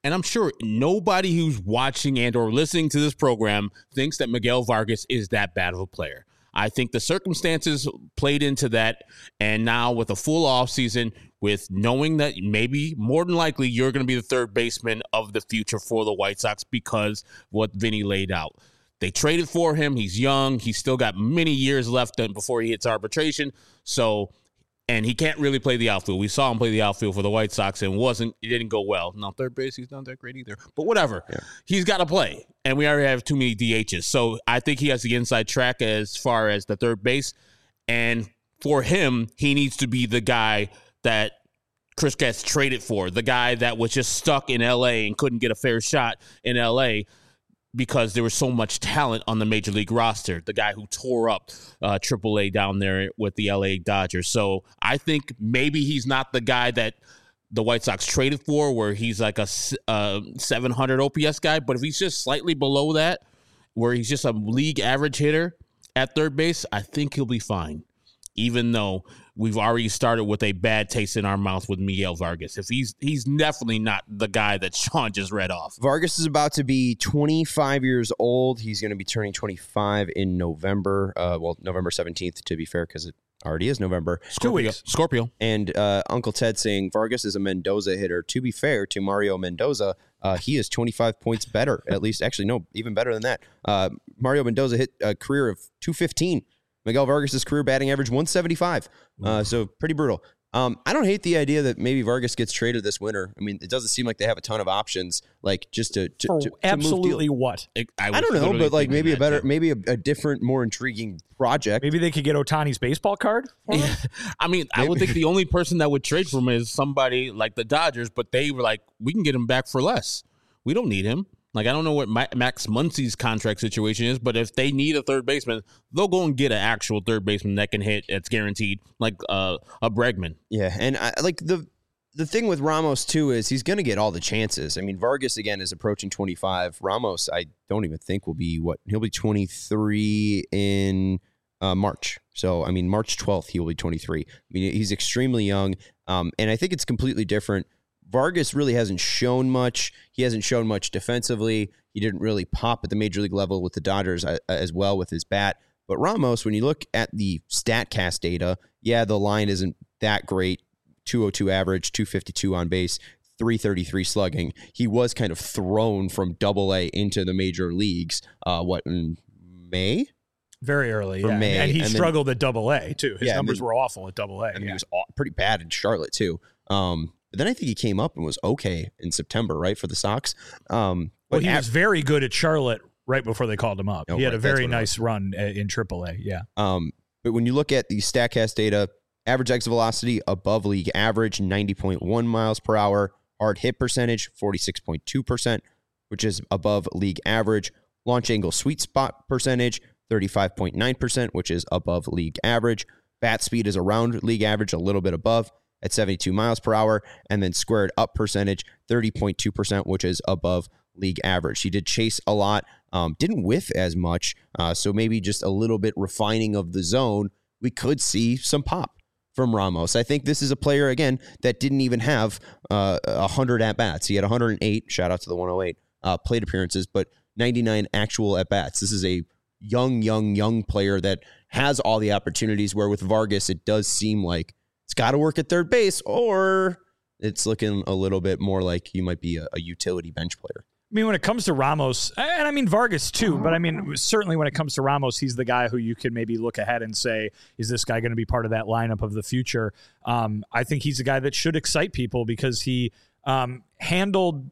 And I'm sure nobody who's watching and or listening to this program thinks that Miguel Vargas is that bad of a player. I think the circumstances played into that. And now with a full offseason, with knowing that maybe more than likely you're going to be the third baseman of the future for the White Sox because what Vinny laid out. They traded for him. He's young. He's still got many years left before he hits arbitration. So, and he can't really play the outfield. We saw him play the outfield for the White Sox and wasn't, it didn't go well. Now, third base, he's not that great either. But whatever. Yeah. He's got to play. And we already have too many D Hs. So I think he has the inside track as far as the third base. And for him, he needs to be the guy that Chris gets traded for, the guy that was just stuck in L A and couldn't get a fair shot in L A because there was so much talent on the Major League roster, the guy who tore up uh, triple A down there with the L A Dodgers. So I think maybe he's not the guy that the White Sox traded for, where he's like a uh, seven hundred O P S guy. But if he's just slightly below that, where he's just a league average hitter at third base, I think he'll be fine, even though we've already started with a bad taste in our mouth with Miguel Vargas. If he's he's definitely not the guy that Sean just read off. Vargas is about to be twenty-five years old. He's going to be turning twenty-five in November. Uh, well, November seventeenth, to be fair, because it already is November. Two weeks. Scorpio. And uh, Uncle Ted saying Vargas is a Mendoza hitter. To be fair to Mario Mendoza, uh, he is twenty-five points better. At least, actually, no, even better than that. Uh, Mario Mendoza hit a career of two fifteen. Miguel Vargas' career batting average one seventy-five. Uh, so pretty brutal. Um, I don't hate the idea that maybe Vargas gets traded this winter. I mean, it doesn't seem like they have a ton of options, like just to, to, For to, to absolutely move what? I, I don't know, but like maybe a better, too. maybe a, a different, more intriguing project. Maybe they could get Ohtani's baseball card. Yeah. I mean, maybe. I would think the only person that would trade for him is somebody like the Dodgers, but they were like, we can get him back for less. We don't need him. Like, I don't know what Max Muncy's contract situation is, but if they need a third baseman, they'll go and get an actual third baseman that can hit. It's guaranteed, like uh, a Bregman. Yeah, and I, like the the thing with Ramos too is he's going to get all the chances. I mean, Vargas again is approaching twenty-five. Ramos, I don't even think will be what he'll be twenty-three in uh, March. So I mean, March twelfth he will be twenty-three. I mean, he's extremely young, um, and I think it's completely different. Vargas really hasn't shown much. He hasn't shown much defensively. He didn't really pop at the major league level with the Dodgers as well with his bat. But Ramos, when you look at the StatCast data, yeah, the line isn't that great. two oh two average, two fifty-two on base, three thirty-three slugging. He was kind of thrown from double A into the major leagues, uh, what, in May? Very early, For yeah. May, and he and struggled then, at double A, too. His yeah, numbers then, were awful at double A. And yeah. he was pretty bad in Charlotte, too. Um, But then I think he came up and was okay in September, right, for the Sox. Um, well, he at, was very good at Charlotte right before they called him up. Oh, he had right, a very nice run in triple A, yeah. Um, but when you look at the StatCast data, average exit velocity above league average, ninety point one miles per hour. Hard hit percentage, forty-six point two percent, which is above league average. Launch angle sweet spot percentage, thirty-five point nine percent, which is above league average. Bat speed is around league average, a little bit above at seventy-two miles per hour, and then squared up percentage, thirty point two percent, which is above league average. He did chase a lot, um, didn't whiff as much, uh, so maybe just a little bit refining of the zone. We could see some pop from Ramos. I think this is a player, again, that didn't even have uh, one hundred at-bats. He had one hundred eight, shout out to the one oh eight, uh, plate appearances, but ninety-nine actual at-bats. This is a young, young, young player that has all the opportunities, where with Vargas, it does seem like it's got to work at third base, or it's looking a little bit more like he might be a, a utility bench player. I mean, when it comes to Ramos, and I mean Vargas too, but I mean, certainly when it comes to Ramos, he's the guy who you can maybe look ahead and say, is this guy going to be part of that lineup of the future? Um, I think he's a guy that should excite people because he um, handled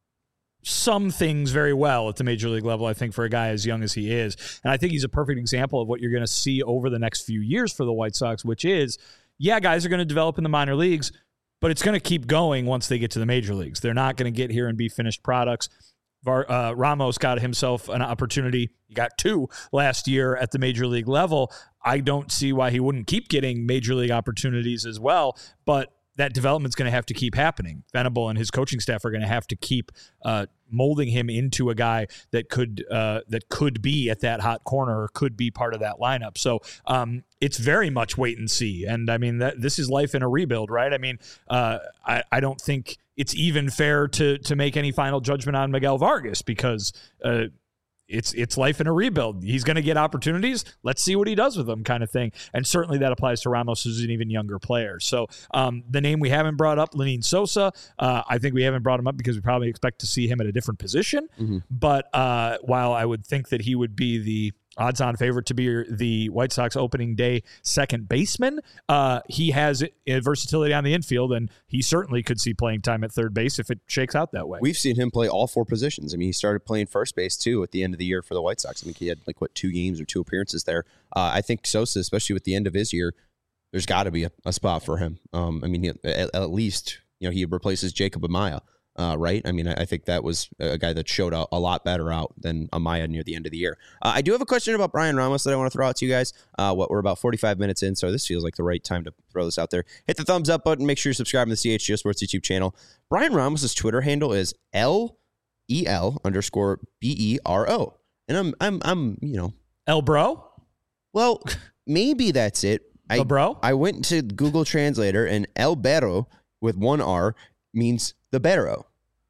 some things very well at the major league level, I think, for a guy as young as he is. And I think he's a perfect example of what you're going to see over the next few years for the White Sox, which is, yeah, guys are going to develop in the minor leagues, but it's going to keep going once they get to the major leagues. They're not going to get here and be finished products. Var, uh, Ramos got himself an opportunity. He got two last year at the major league level. I don't see why he wouldn't keep getting major league opportunities as well, but that development's going to have to keep happening. Venable and his coaching staff are going to have to keep uh, molding him into a guy that could uh, that could be at that hot corner or could be part of that lineup. So um, it's very much wait and see. And I mean, that, this is life in a rebuild, right? I mean, uh, I, I don't think it's even fair to to make any final judgment on Miguel Vargas because uh, It's it's life in a rebuild. He's going to get opportunities. Let's see what he does with them, kind of thing. And certainly that applies to Ramos, who's an even younger player. So um, the name we haven't brought up, Lenin Sosa, uh, I think we haven't brought him up because we probably expect to see him at a different position. Mm-hmm. But uh, while I would think that he would be the odds-on favorite to be the White Sox opening day second baseman, uh, he has a versatility on the infield, and he certainly could see playing time at third base if it shakes out that way. We've seen him play all four positions. I mean, he started playing first base, too, at the end of the year for the White Sox. I think he had, like, what, two games or two appearances there. Uh, I think Sosa, especially with the end of his year, there's got to be a, a spot for him. Um, I mean, at, at least, you know, he replaces Jacob Amaya. Uh, right? I mean, I, I think that was a guy that showed a, a lot better out than Amaya near the end of the year. Uh, I do have a question about Brian Ramos that I want to throw out to you guys. Uh, what we're about forty-five minutes in, so this feels like the right time to throw this out there. Hit the thumbs up button. Make sure you subscribe to the C H G O Sports YouTube channel. Brian Ramos' Twitter handle is L E L underscore B E R O. And I'm, I'm, I'm, you know. El Bro? Well, maybe that's it. I, El Bro? I went to Google Translator, and El Bero with one R means the Barrow.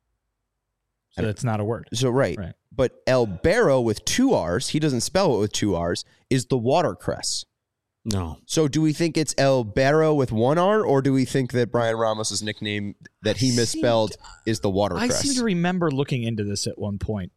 So that's not a word. So, right. right. But El Barrow with two R's, he doesn't spell it with two R's, is the watercress. No. So do we think it's El Barrow with one R, or do we think that Brian Ramos' nickname that he misspelled is the watercress? I seem to remember looking into this at one point.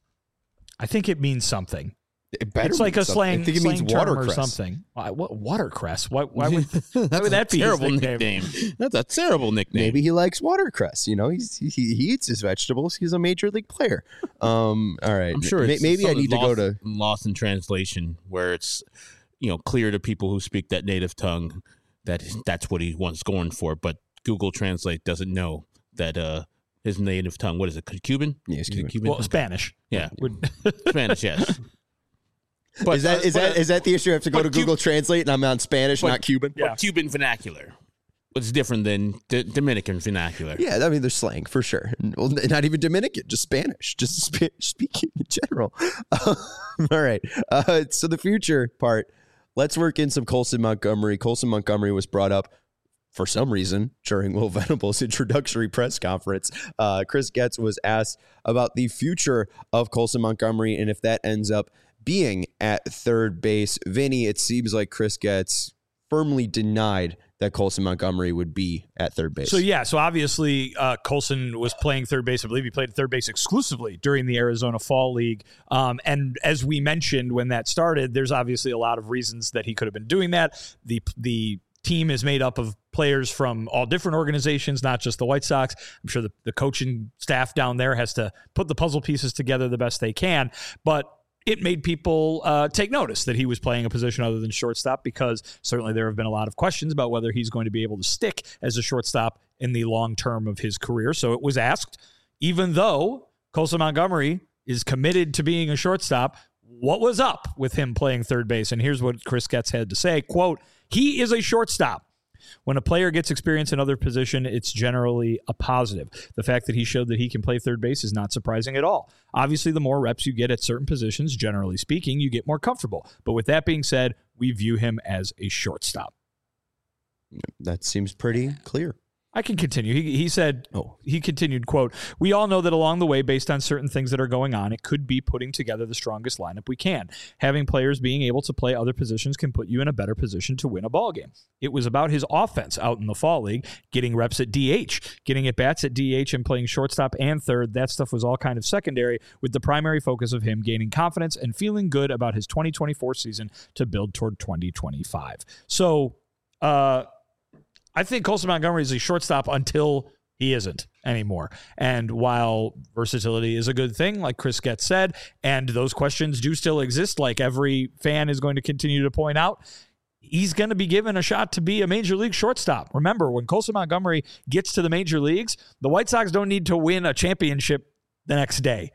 I think it means something. It better it's like a slang, I think it slang means term watercress or something. Why, what watercress? Why, why would, why would that be terrible his nickname? nickname? That's a terrible nickname. Maybe he likes watercress. You know, he's, he, he eats his vegetables. He's a major league player. Um, all right. I'm sure. It's maybe I need to lost, go to lost in translation, where it's you know clear to people who speak that native tongue that that's what he wants going for, but Google Translate doesn't know that uh, his native tongue. What is it? Cuban? Yeah, it's Cuban. Cuban. Well, Spanish. Yeah, Spanish. Yes. But, is that is that is that the issue? I have to go to Google Translate and I'm on Spanish, but, not Cuban. Yeah. But Cuban vernacular. It's different than D- Dominican vernacular. Yeah, I mean, there's slang for sure. Well, not even Dominican, just Spanish, just Spanish speaking in general. Uh, all right. Uh, so the future part, let's work in some Colson Montgomery. Colson Montgomery was brought up for some reason during Will Venable's introductory press conference. Uh, Chris Getz was asked about the future of Colson Montgomery and if that ends up being at third base. Vinny, it seems like Chris Getz firmly denied that Colson Montgomery would be at third base. So, yeah, so obviously uh, Colson was playing third base. I believe he played third base exclusively during the Arizona Fall League. Um, and as we mentioned when that started, there's obviously a lot of reasons that he could have been doing that. The the team is made up of players from all different organizations, not just the White Sox. I'm sure the, the coaching staff down there has to put the puzzle pieces together the best they can. But it made people uh, take notice that he was playing a position other than shortstop, because certainly there have been a lot of questions about whether he's going to be able to stick as a shortstop in the long term of his career. So it was asked, even though Colson Montgomery is committed to being a shortstop, what was up with him playing third base? And here's what Chris Getz had to say, quote, "He is a shortstop. When a player gets experience in other position, it's generally a positive. The fact that he showed that he can play third base is not surprising at all. Obviously, the more reps you get at certain positions, generally speaking, you get more comfortable. But with that being said, we view him as a shortstop." That seems pretty clear. I can continue. He, he said, oh. he continued, quote, "We all know that along the way, based on certain things that are going on, it could be putting together the strongest lineup we can. Having players being able to play other positions can put you in a better position to win a ball game. It was about his offense out in the fall league, getting reps at D H, getting at bats at D H and playing shortstop and third. That stuff was all kind of secondary, with the primary focus of him gaining confidence and feeling good about his twenty twenty-four season to build toward twenty twenty-five. So, uh, I think Colson Montgomery is a shortstop until he isn't anymore. And while versatility is a good thing, like Chris Getz said, and those questions do still exist, like every fan is going to continue to point out, he's going to be given a shot to be a major league shortstop. Remember, when Colson Montgomery gets to the major leagues, the White Sox don't need to win a championship the next day.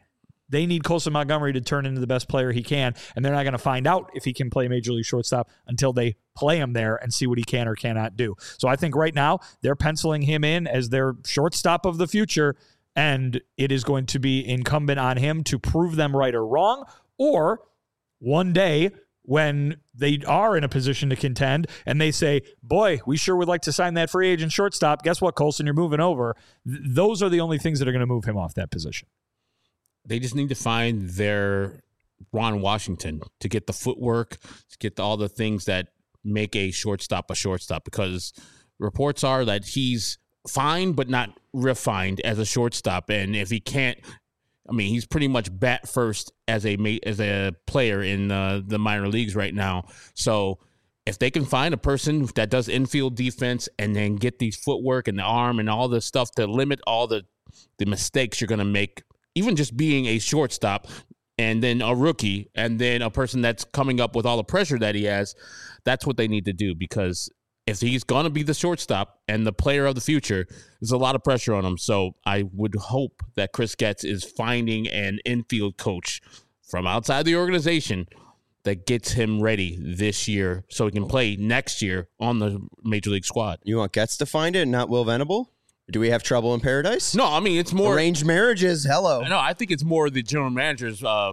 They need Colson Montgomery to turn into the best player he can, and they're not going to find out if he can play Major League shortstop until they play him there and see what he can or cannot do. So I think right now they're penciling him in as their shortstop of the future, and it is going to be incumbent on him to prove them right or wrong, or one day when they are in a position to contend and they say, boy, we sure would like to sign that free agent shortstop. Guess what, Colson, you're moving over. Th- those are the only things that are going to move him off that position. They just need to find their Ron Washington to get the footwork, to get all the things that make a shortstop a shortstop, because reports are that he's fine but not refined as a shortstop. And if he can't, I mean, he's pretty much bat first as a as a player in uh, the minor leagues right now. So if they can find a person that does infield defense and then get these footwork and the arm and all the stuff to limit all the, the mistakes you're going to make, even just being a shortstop and then a rookie and then a person that's coming up with all the pressure that he has, that's what they need to do, because if he's going to be the shortstop and the player of the future, there's a lot of pressure on him. So I would hope that Chris Getz is finding an infield coach from outside the organization that gets him ready this year so he can play next year on the Major League squad. You want Getz to find it, not Will Venable? Do we have trouble in paradise? No, I mean, it's more arranged marriages. Hello. No, I think it's more the general manager's uh,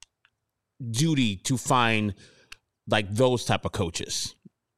duty to find like those type of coaches.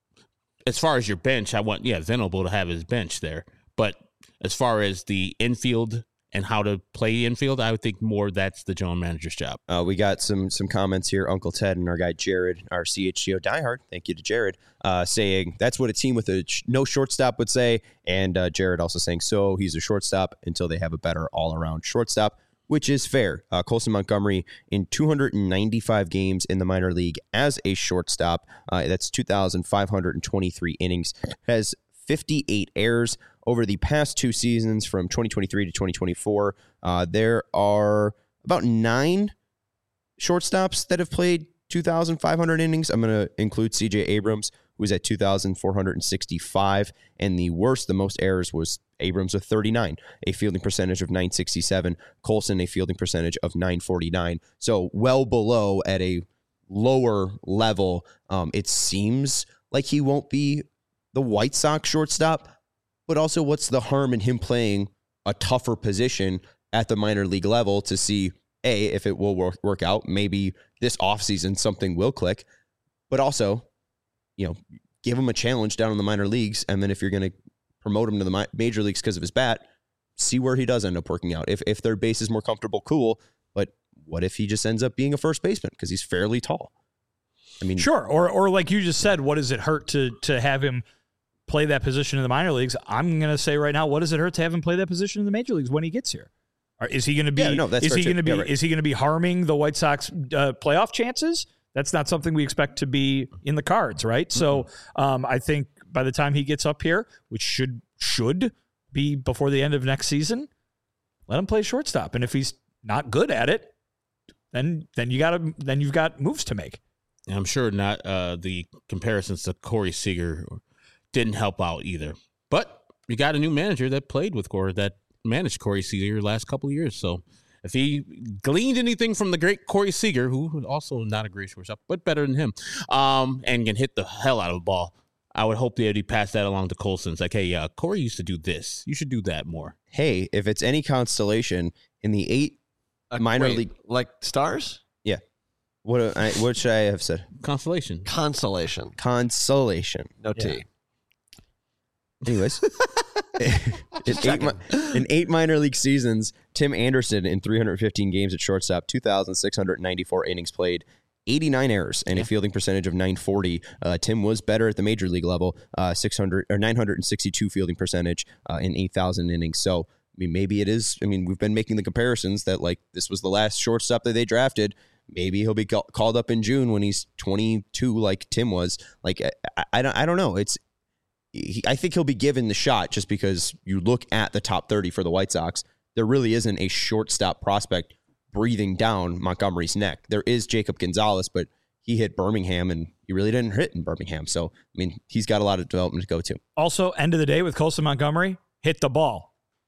As far as your bench, I want, yeah, Venable to have his bench there. But as far as the infield and how to play infield, I would think more that's the general manager's job. Uh, we got some some comments here. Uncle Ted and our guy Jared, our C H G O diehard, thank you to Jared, uh, saying that's what a team with a sh- no shortstop would say. And uh, Jared also saying, so he's a shortstop until they have a better all-around shortstop, which is fair. Uh, Colson Montgomery in two hundred ninety-five games in the minor league as a shortstop. Uh, that's two thousand five hundred twenty-three innings. Has fifty-eight errors over the past two seasons from twenty twenty-three to twenty twenty-four. Uh, there are about nine shortstops that have played two thousand five hundred innings. I'm going to include C J Abrams, who was at two thousand four hundred sixty-five. And the worst, the most errors was Abrams with thirty-nine, a fielding percentage of nine sixty-seven. Colson, a fielding percentage of nine forty-nine. So well below at a lower level. Um, it seems like he won't be the White Sox shortstop, but also what's the harm in him playing a tougher position at the minor league level to see, A, if it will work, work out. Maybe this offseason something will click, but also, you know, give him a challenge down in the minor leagues. And then if you're going to promote him to the major leagues because of his bat, see where he does end up working out. If if their base is more comfortable, cool. But what if he just ends up being a first baseman because he's fairly tall? I mean, sure. Or or like you just said, what does it hurt to to have him play that position in the minor leagues? I'm going to say right now, what does it hurt to have him play that position in the major leagues when he gets here? Or is he going to be? Yeah, no, that's is he going to be? Yeah, right. Is he going to be harming the White Sox uh, playoff chances? That's not something we expect to be in the cards, right? Mm-hmm. So um, I think by the time he gets up here, which should should be before the end of next season, let him play shortstop. And if he's not good at it, then then you got to then you've got moves to make. I'm sure not uh, the comparisons to Corey Seager didn't help out either. But you got a new manager that played with Corey, that managed Corey Seager the last couple of years. So if he gleaned anything from the great Corey Seager, who was also not a great shortstop, but better than him, um, and can hit the hell out of the ball, I would hope that he passed that along to Colson. It's like, hey, yeah, Corey used to do this. You should do that more. Hey, if it's any consolation, in the eight uh, minor wait, league, like stars, yeah. What I, what should I have said? Consolation. Consolation. Consolation. No yeah. T. Anyways, in, eight, in eight minor league seasons, Tim Anderson in three hundred fifteen games at shortstop, two thousand six hundred ninety-four innings played, eighty-nine errors, and yeah. a fielding percentage of nine forty. Uh, Tim was better at the major league level, uh, six hundred or nine hundred sixty-two fielding percentage uh, in eight thousand innings. So, I mean, maybe it is. I mean, we've been making the comparisons that like this was the last shortstop that they drafted. Maybe he'll be called up in June when he's twenty-two, like Tim was. Like I, I don't, I don't know. It's, he, I think he'll be given the shot just because you look at the top thirty for the White Sox. There really isn't a shortstop prospect breathing down Montgomery's neck. There is Jacob Gonzalez, but he hit Birmingham and he really didn't hit in Birmingham. So I mean, he's got a lot of development to go to. Also, end of the day with Colson Montgomery, hit the ball.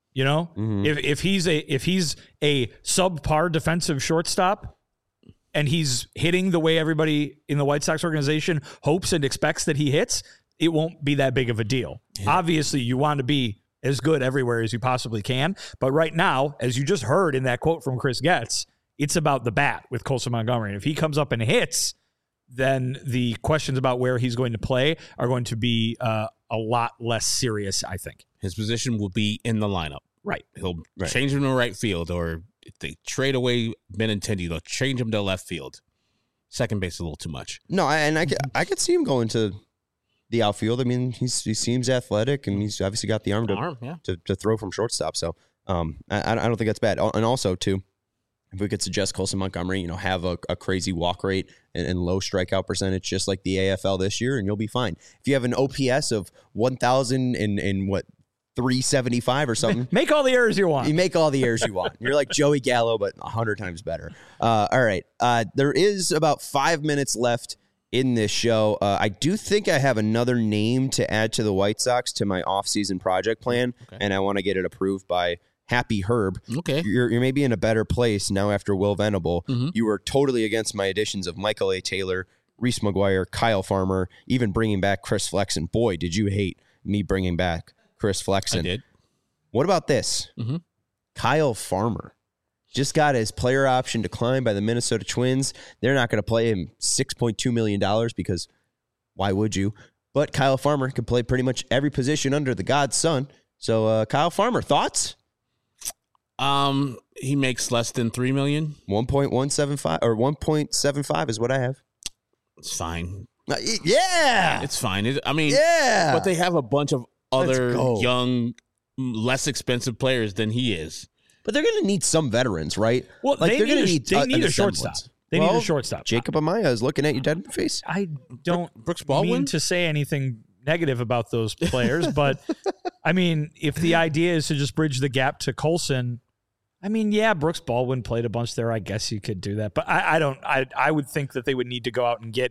You know, Mhm. if if he's a if he's a subpar defensive shortstop and he's hitting the way everybody in the White Sox organization hopes and expects that he hits, it won't be that big of a deal. Yeah. Obviously, you want to be as good everywhere as you possibly can. But right now, as you just heard in that quote from Chris Getz, it's about the bat with Colson Montgomery. And if he comes up and hits, then the questions about where he's going to play are going to be uh, a lot less serious, I think. His position will be in the lineup. Right. He'll Right. change him to right field, or if they trade away Benintendi, they'll change him to left field. Second base is a little too much. No, I, and I could, I could see him going to the outfield. I mean, he's he seems athletic, and he's obviously got the arm to Arm, yeah. to, to throw from shortstop. So um, I, I don't think that's bad. And also, too, if we could suggest Colson Montgomery, you know, have a, a crazy walk rate and, and low strikeout percentage, just like the A F L this year, and you'll be fine. If you have an O P S of one thousand and, and what, three seventy-five or something, Make all the errors you want. you make all the errors you want. You're like Joey Gallo, but a hundred times better. Uh, all right. Uh, there is about five minutes left in this show. Uh, I do think I have another name to add to the White Sox to my offseason project plan, Okay. and I want to get it approved by Happy Herb. Okay. You're, you're maybe in a better place now after Will Venable. Mhm. You were totally against my additions of Michael A. Taylor, Reese McGuire, Kyle Farmer, even bringing back Chris Flexen. Boy, did you hate me bringing back Chris Flexen. I did. What about this? Mhm. Kyle Farmer just got his player option declined by the Minnesota Twins. They're not going to play him six point two million dollars because why would you? But Kyle Farmer can play pretty much every position under the God's sun. So, uh, Kyle Farmer, thoughts? Um, he makes less than three million. one point one seven five or one point seven five is what I have. It's fine. Uh, Yeah. It's fine. It, I mean, Yeah. but they have a bunch of Let's other go. young, less expensive players than he is. But they're going to need some veterans, right? Well, Like, they they're need, gonna a, need they a- need an a shortstop. semblance. They Well, need a shortstop. Jacob Amaya is looking at you dead in the face. I don't Brooks mean Baldwin. to say anything negative about those players, but I mean, if the idea is to just bridge the gap to Colson, I mean, yeah, Brooks Baldwin played a bunch there. I guess you could do that, but I, I don't. I I would think that they would need to go out and get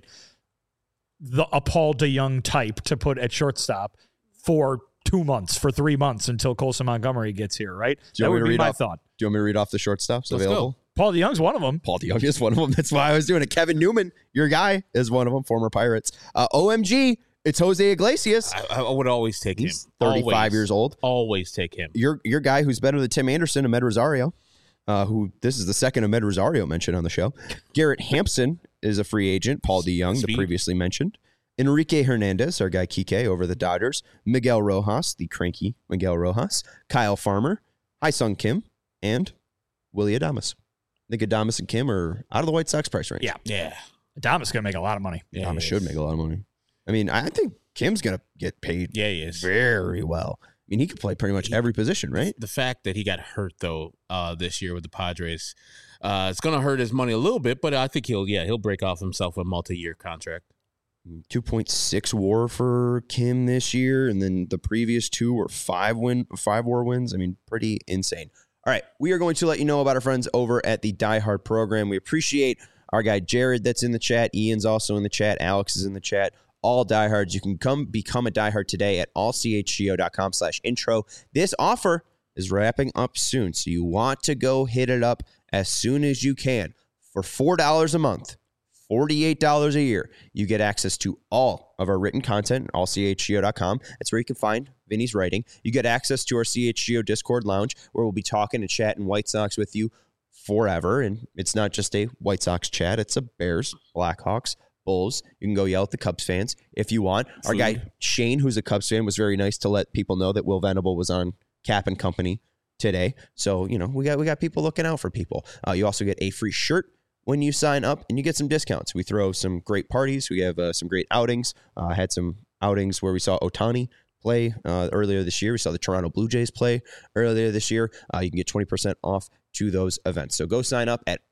the a Paul DeYoung type to put at shortstop for two months, for three months until Colson Montgomery gets here. Right? Do you That want me would to be read my off- thought. Do you want me to read off the shortstops Let's available? go. Paul DeYoung's one of them. Paul DeYoung is one of them. That's why I was doing it. Kevin Newman, your guy, is one of them, former Pirates. Uh, O M G, it's Jose Iglesias. I, I would always take He's him. thirty-five Always. years old. Always take him. Your your guy who's better than Tim Anderson, Ahmed Rosario, uh, who this is the second Ahmed Rosario mentioned on the show. Garrett Hampson is a free agent. Paul DeYoung, the Speed. previously mentioned. Enrique Hernandez, our guy Kike over the Dodgers. Miguel Rojas, the cranky Miguel Rojas. Kyle Farmer, Hi-Sung Kim, and Willie Adames. I think Adames and Kim are out of the White Sox price range. Yeah. Yeah. Adames going to make a lot of money. Yeah, Adames he should is. make a lot of money. I mean, I think Kim's going to get paid Yeah, he is. very well. I mean, he could play pretty much every position, right? The fact that he got hurt though uh, this year with the Padres, uh, it's going to hurt his money a little bit, but I think he'll yeah he'll break off himself a multi-year contract. two point six WAR for Kim this year, and then the previous two were five win, five WAR wins. I mean, pretty insane. All right, we are going to let you know about our friends over at the Die Hard program. We appreciate our guy Jared that's in the chat. Ian's also in the chat. Alex is in the chat. All diehards. You can come become a diehard today at allchgo.com slash intro. This offer is wrapping up soon, so you want to go hit it up as soon as you can. For four dollars a month, forty-eight dollars a year, you get access to all of our written content at all c h g o dot com. That's where you can find Vinny's writing. You get access to our C H G O Discord lounge, where we'll be talking and chatting White Sox with you forever. And it's not just a White Sox chat. It's a Bears, Blackhawks, Bulls. You can go yell at the Cubs fans if you want. Our Food. guy Shane, who's a Cubs fan, was very nice to let people know that Will Venable was on Cap and Company today. So, you know, we got we got people looking out for people. Uh, you also get a free shirt when you sign up, and you get some discounts. We throw some great parties. We have uh, some great outings. I uh, had some outings where we saw Ohtani play uh, earlier this year. We saw the Toronto Blue Jays play earlier this year. Uh, you can get twenty percent off to those events. So go sign up at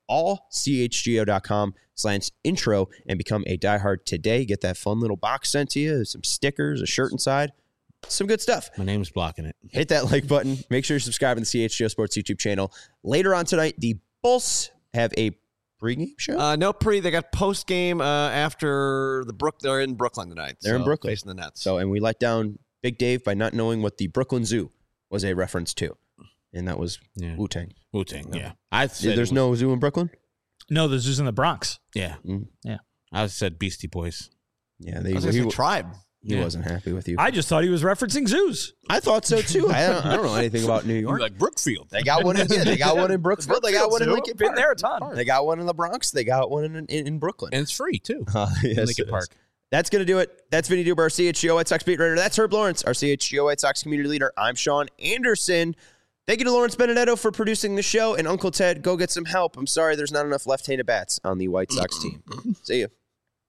allchgo.com slash intro and become a diehard today. Get that fun little box sent to you, some stickers, a shirt inside, some good stuff. My name's blocking it. Hit that like button. Make sure you're subscribing to the C H G O Sports YouTube channel. Later on tonight, the Bulls have a pregame show. Uh, no pre. They got post game uh, after the Brook. They're in Brooklyn tonight. They're in so Brooklyn. facing the Nets. So, and we let down Big Dave by not knowing what the Brooklyn Zoo was a reference to. and that was Yeah. Wu-Tang. Wu-Tang, yeah. I said There's it was- no zoo in Brooklyn? No, this is in the Bronx. Yeah. Mm. Yeah. I said Beastie Boys. Yeah, I they, was he, gonna say Tribe. he Yeah. wasn't happy with you. I just thought he was referencing zoos. I thought so too. I don't, I don't know anything about New York. Like Brookfield. They got one in yeah, they got one in Brooksville. They got one in Lincoln Been Park. there a ton. They got one in the Bronx. They got one in in, in Brooklyn. And it's free, too. Uh, yes, Lincoln it is. Park. That's going to do it. That's Vinny Duber, our C H G O White Sox beat writer. That's Herb Lawrence, our C H G O White Sox community leader. I'm Sean Anderson. Thank you to Lawrence Benedetto for producing the show. And Uncle Ted, go get some help. I'm sorry there's not enough left-handed bats on the White Sox team. See you.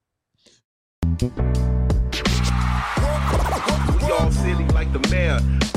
We all silly like the mayor.